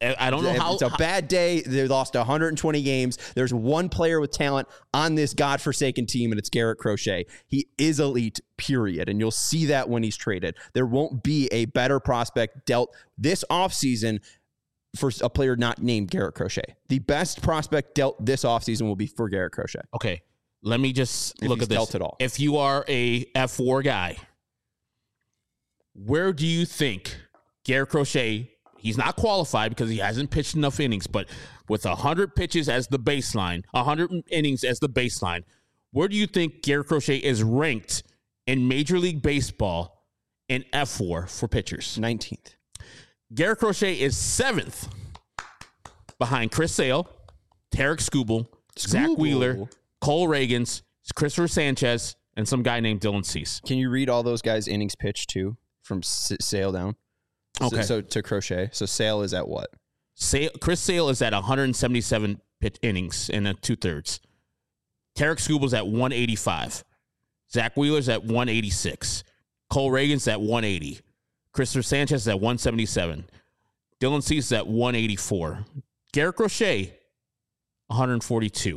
I don't know how. It's a bad day. They lost 120 games. There's one player with talent on this godforsaken team, and it's Garrett Crochet. He is elite, period. And you'll see that when he's traded. There won't be a better prospect dealt this offseason for a player not named Garrett Crochet. The best prospect dealt this offseason will be for Garrett Crochet. Okay, let me just look at this. Dealt at all. If you are a F4 guy, where do you think Garrett Crochet, he's not qualified because he hasn't pitched enough innings, but with 100 pitches as the baseline, 100 innings as the baseline, where do you think Garrett Crochet is ranked in Major League Baseball in F4 for pitchers? 19th. Garrett Crochet is 7th behind Chris Sale, Tarek Skubal, Zach Wheeler, Cole Reagans, Christopher Sanchez, and some guy named Dylan Cease. Can you read all those guys' innings pitched too from Sale down? Okay. So to Crochet. So Sale is at what? Chris Sale is at 177 pitch innings in 2/3. Tarek Skubal's at 185. Zach Wheeler's at 186. Cole Reagans at 180. Christopher Sanchez is at 177. Dylan Cease is at 184. Garrett Crochet, 142.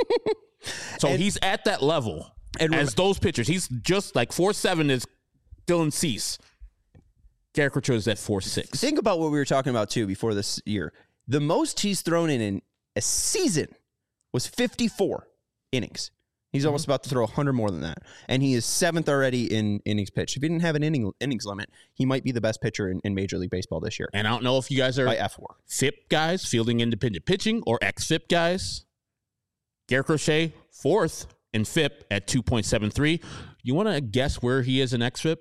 So he's at that level as those pitchers. He's just like 4.7 is Dylan Cease. Garrett Crochet is at 4.6. Think about what we were talking about, too, before this year. The most he's thrown in a season was 54 innings. He's almost about to throw 100 more than that. And he is 7th already in innings pitched. If he didn't have an innings limit, he might be the best pitcher in Major League Baseball this year. And I don't know if you guys are by F4 FIP guys, fielding independent pitching, or ex-FIP guys. Garrett Crochet, 4th in FIP at 2.73. You want to guess where he is in ex-FIP?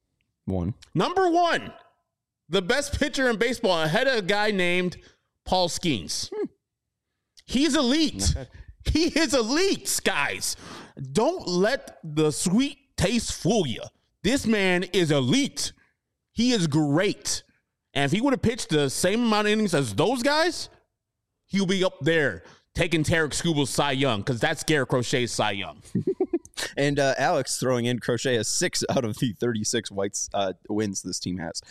1. Number 1. The best pitcher in baseball, ahead of a guy named Paul Skeens. He's elite. He is elite, guys. Don't let the sweet taste fool you. This man is elite. He is great. And if he would have pitched the same amount of innings as those guys, he'll be up there taking Tarek Skubal's Cy Young, because that's Garrett Crochet's Cy Young. And Alex throwing in Crochet has 6 out of the 36 Whites wins this team has.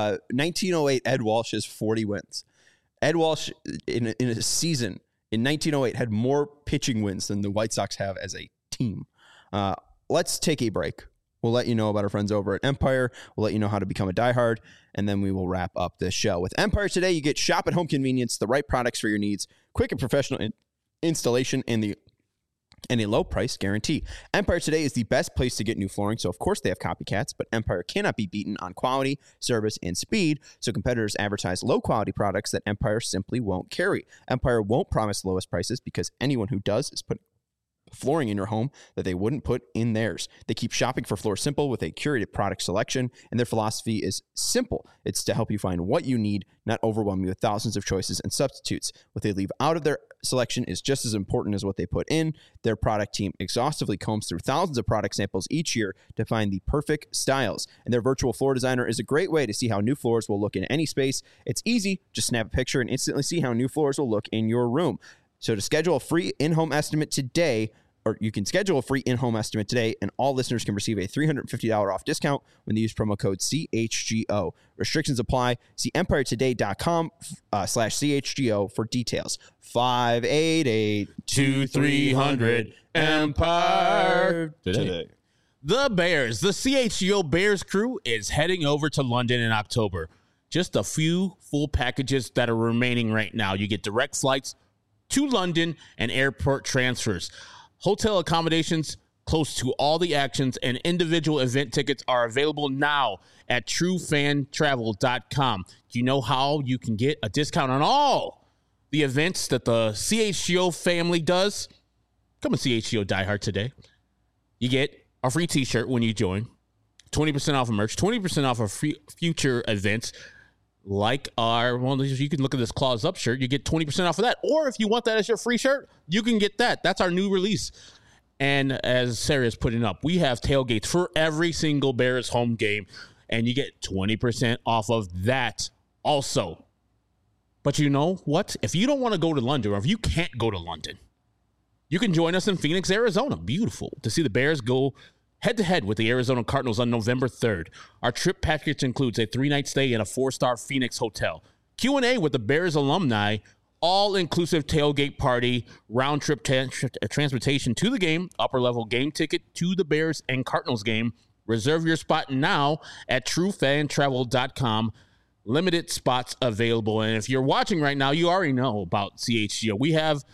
1908, Ed Walsh has 40 wins. Ed Walsh, in a season in 1908, had more pitching wins than the White Sox have as a team. Let's take a break. We'll let you know about our friends over at Empire. We'll let you know how to become a diehard, and then we will wrap up this show. With Empire today, you get shop at home convenience, the right products for your needs, quick and professional installation, and a low price guarantee. Empire today is the best place to get new flooring, so of course they have copycats, but Empire cannot be beaten on quality, service, and speed, so competitors advertise low-quality products that Empire simply won't carry. Empire won't promise the lowest prices because anyone who does is putting flooring in your home that they wouldn't put in theirs. They keep shopping for Floor Simple with a curated product selection, and their philosophy is simple. It's to help you find what you need, not overwhelm you with thousands of choices and substitutes. What they leave out of their selection is just as important as what they put in. Their product team exhaustively combs through thousands of product samples each year to find the perfect styles. And their virtual floor designer is a great way to see how new floors will look in any space. It's easy. Just snap a picture and instantly see how new floors will look in your room. So to schedule a free in-home estimate today, or you can schedule a free in-home estimate today, and all listeners can receive a $350 off discount when they use promo code CHGO. Restrictions apply. See EmpireToday.com/CHGO for details. 588-2300 Empire Today. The Bears, the CHGO Bears crew is heading over to London in October. Just a few full packages that are remaining right now. You get direct flights to London and airport transfers. Hotel accommodations close to all the actions, and individual event tickets are available now at truefantravel.com. Do you know how you can get a discount on all the events that the CHGO family does? Come and CHGO Die Hard today. You get a free t-shirt when you join, 20% off of merch, 20% off of future events, like you can look at this Claws Up shirt. You get 20% off of that. Or if you want that as your free shirt, you can get that. That's our new release. And as Sarah is putting up, we have tailgates for every single Bears home game. And you get 20% off of that also. But you know what? If you don't want to go to London, or if you can't go to London, you can join us in Phoenix, Arizona. Beautiful to see the Bears go head-to-head with the Arizona Cardinals on November 3rd. Our trip package includes a 3-night stay in a 4-star Phoenix hotel, Q&A with the Bears alumni, all-inclusive tailgate party, round-trip transportation to the game, upper-level game ticket to the Bears and Cardinals game. Reserve your spot now at truefantravel.com. Limited spots available. And if you're watching right now, you already know about CHGO. We have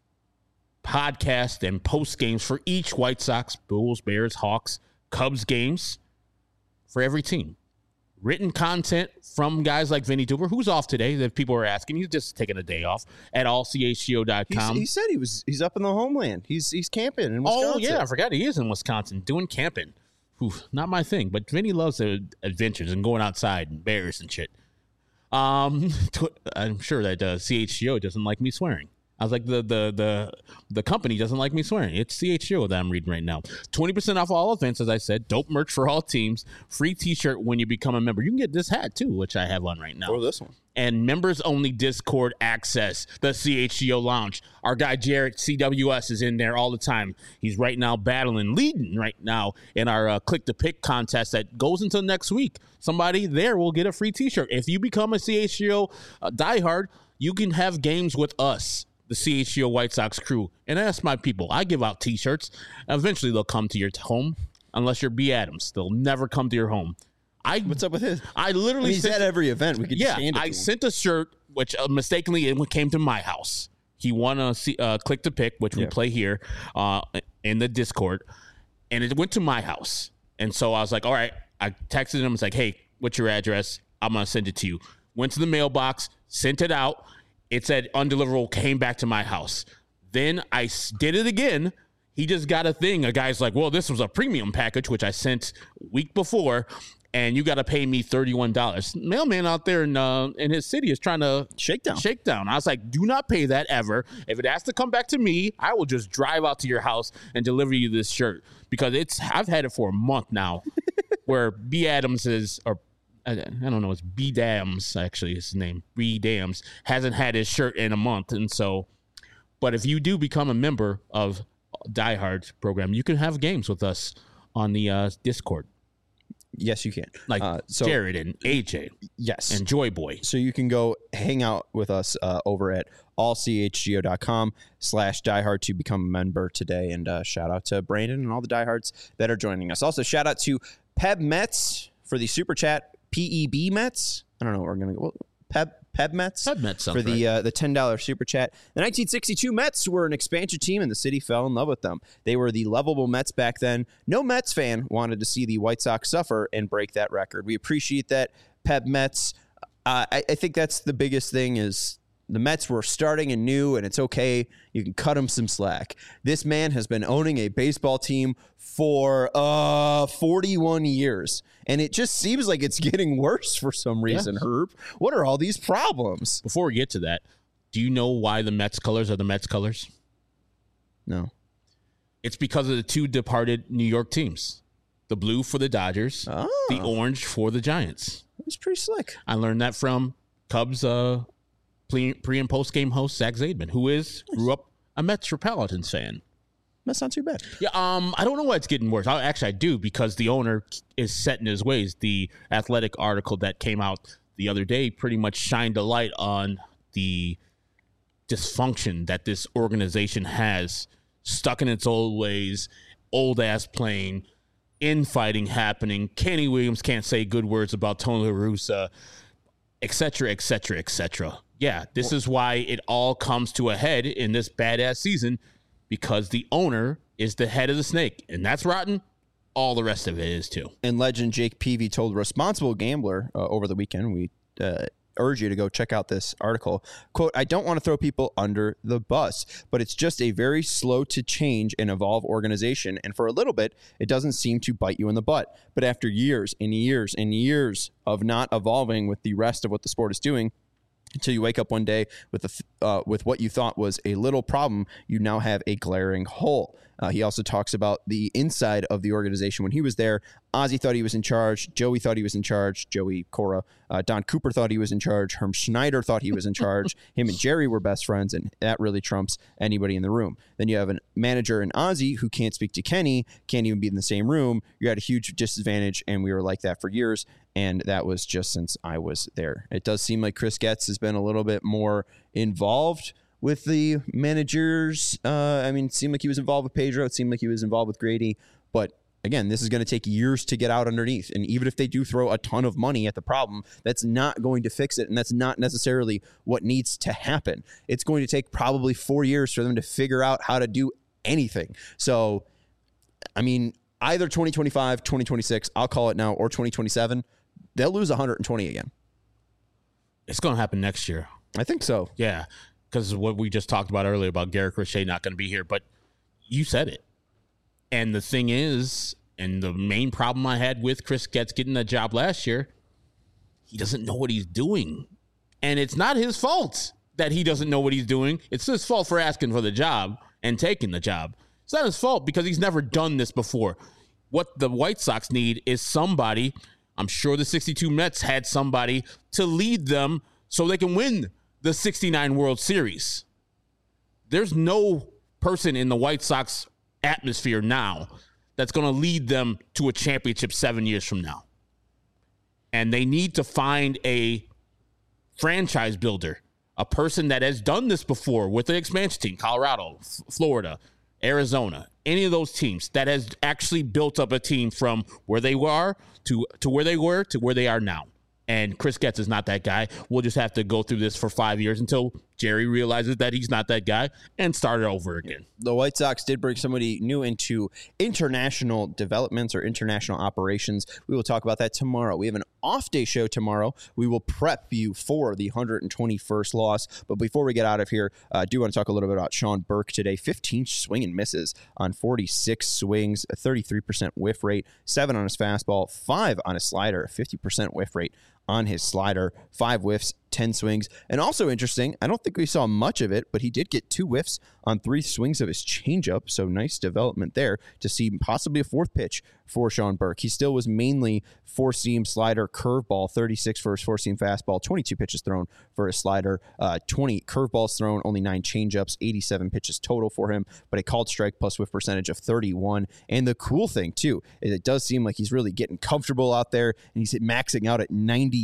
podcast and post games for each White Sox, Bulls, Bears, Hawks, Cubs games for every team. Written content from guys like Vinny Duber, who's off today, that people are asking. He's just taking a day off at allchgo.com. He said he's up in the homeland. He's camping in Wisconsin. Oh, yeah, I forgot he is in Wisconsin doing camping. Oof, not my thing, but Vinny loves the adventures and going outside and bears and shit. I'm sure that CHGO doesn't like me swearing. I was like, the company doesn't like me swearing. It's CHGO that I'm reading right now. 20% off all events, as I said. Dope merch for all teams. Free t-shirt when you become a member. You can get this hat, too, which I have on right now. Or this one. And members-only Discord access, the CHGO Lounge. Our guy Jarrett, CWS, is in there all the time. He's right now leading right now in our Click to Pick contest that goes until next week. Somebody there will get a free t-shirt. If you become a CHGO diehard, you can have games with us, the CHGO White Sox crew. And that's my people. I give out t-shirts. Eventually, they'll come to your home, unless you're B. Adams. They'll never come to your home. What's up with his? I literally he's at every event. We could just hand it to him. sent a shirt, which mistakenly it came to my house. He won a Click to Pick, which we play here in the Discord, and it went to my house. And so I was like, all right. I texted him. It's like, hey, what's your address? I'm going to send it to you. Went to the mailbox, sent it out. It said undeliverable, came back to my house. Then I did it again. He just got a thing. A guy's like, well, this was a premium package, which I sent week before, and you got to pay me $31. Mailman out there in his city is trying to shakedown. I was like, do not pay that ever. If it has to come back to me, I will just drive out to your house and deliver you this shirt, because I've had it for a month now. Where B. Adams is, or I don't know, it's B. Dams, actually, his name, B. Dams, hasn't had his shirt in a month. And so, but if you do become a member of Die Hard program, you can have games with us on the Discord. Yes, you can. Like Jared and AJ. Yes. And Joy Boy. So you can go hang out with us over at allchgo.com/diehard to become a member today. And shout out to Brandon and all the diehards that are joining us. Also, shout out to Peb Mets for the super chat. PEB Mets. I don't know what we're going to go. Peb Mets. Peb Mets for the $10 super chat. The 1962 Mets were an expansion team, and the city fell in love with them. They were the lovable Mets back then. No Mets fan wanted to see the White Sox suffer and break that record. We appreciate that, Peb Mets. I think that's the biggest thing is the Mets were starting anew, and it's okay. You can cut him some slack. This man has been owning a baseball team for 41 years, and it just seems like it's getting worse for some reason, Herb. What are all these problems? Before we get to that, do you know why the Mets colors are the Mets colors? No. It's because of the two departed New York teams. The blue for the Dodgers, the orange for the Giants. That's pretty slick. I learned that from Cubs pre- and post-game host Zach Zaidman, who grew up a Mets Pelicans fan. That's not too bad. Yeah, I don't know why it's getting worse. I do, because the owner is set in his ways. The Athletic article that came out the other day pretty much shined a light on the dysfunction that this organization has, stuck in its old ways, old-ass playing, infighting happening. Kenny Williams can't say good words about Tony La Russa, et cetera, et cetera, et cetera. Yeah, this is why it all comes to a head in this badass season, because the owner is the head of the snake, and that's rotten. All the rest of it is too. And legend Jake Peavy told Responsible Gambler over the weekend, we urge you to go check out this article. Quote, I don't want to throw people under the bus, but it's just a very slow to change and evolve organization. And for a little bit, it doesn't seem to bite you in the butt. But after years and years and years of not evolving with the rest of what the sport is doing, until you wake up one day with what you thought was a little problem, you now have a glaring hole. He also talks about the inside of the organization when he was there. Ozzie thought he was in charge. Joey thought he was in charge. Joey Cora. Don Cooper thought he was in charge. Herm Schneider thought he was in charge. Him and Jerry were best friends, and that really trumps anybody in the room. Then you have a manager in Ozzie who can't speak to Kenny, can't even be in the same room. You're at a huge disadvantage, and we were like that for years, and that was just since I was there. It does seem like Chris Getz has been a little bit more involved with the managers. It seemed like he was involved with Pedro. It seemed like he was involved with Grady, but again, this is going to take years to get out underneath. And even if they do throw a ton of money at the problem, that's not going to fix it. And that's not necessarily what needs to happen. It's going to take probably 4 years for them to figure out how to do anything. So, either 2025, 2026, I'll call it now, or 2027, they'll lose 120 again. It's going to happen next year. I think so. Yeah, because what we just talked about earlier about Garrett Crochet not going to be here, but you said it. And the thing is, and the main problem I had with Chris Getz getting that job last year, he doesn't know what he's doing. And it's not his fault that he doesn't know what he's doing. It's his fault for asking for the job and taking the job. It's not his fault because he's never done this before. What the White Sox need is somebody, I'm sure the 62 Mets had somebody to lead them so they can win the 69 World Series. There's no person in the White Sox atmosphere now that's going to lead them to a championship 7 years from now. And they need to find a franchise builder, a person that has done this before with the expansion team, Colorado, Florida, Arizona, any of those teams that has actually built up a team from where they were to where they were to where they are now. And Chris Getz is not that guy. We'll just have to go through this for 5 years until Jerry realizes that he's not that guy and start it over again. The White Sox did bring somebody new into international developments or international operations. We will talk about that tomorrow. We have an off-day show tomorrow. We will prep you for the 121st loss. But before we get out of here, I do want to talk a little bit about Sean Burke today. 15 swing and misses on 46 swings, a 33% whiff rate, 7 on his fastball, 5 on his slider, a 50% whiff rate on his slider, 5 whiffs, 10 swings. And also interesting, I don't think we saw much of it, but he did get 2 whiffs on 3 swings of his changeup. So nice development there to see possibly a 4th pitch for Sean Burke. He still was mainly 4-seam slider, curveball, 36 for his 4-seam fastball, 22 pitches thrown for his slider, 20 curveballs thrown, only 9 changeups, 87 pitches total for him, but a called strike plus whiff percentage of 31. And the cool thing too, is it does seem like he's really getting comfortable out there, and he's maxing out at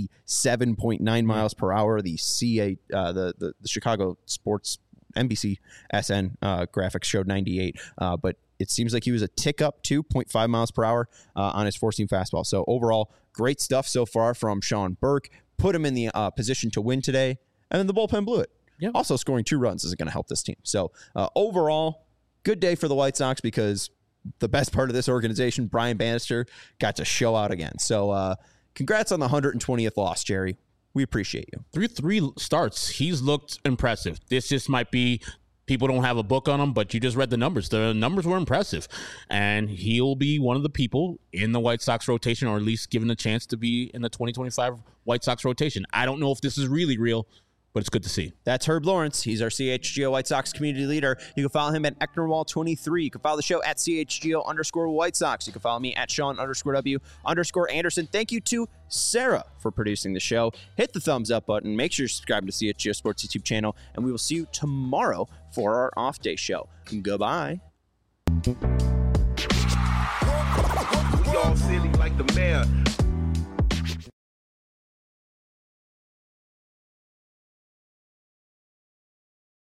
97.9 miles per hour. The the Chicago Sports NBC SN graphics showed 98, but it seems like he was a tick up 2.5 miles per hour on his 4-seam fastball. So overall, great stuff so far from Sean Burke. Put him in the position to win today, and then the bullpen blew it. Yep. Also, scoring 2 runs isn't going to help this team. So overall, good day for the White Sox because the best part of this organization, Brian Bannister, got to show out again. So congrats on the 120th loss, Jerry. We appreciate you. 3 starts. He's looked impressive. This just might be, people don't have a book on him, but you just read the numbers. The numbers were impressive. And he'll be one of the people in the White Sox rotation, or at least given a chance to be in the 2025 White Sox rotation. I don't know if this is really real, but it's good to see. That's Herb Lawrence. He's our CHGO White Sox community leader. You can follow him at Ecknerwall23. You can follow the show at CHGO_White Sox. You can follow me at Sean_W_Anderson. Thank you to Sarah for producing the show. Hit the thumbs up button. Make sure you subscribe to CHGO Sports YouTube channel. And we will see you tomorrow for our off day show. Goodbye. We all silly like the mayor.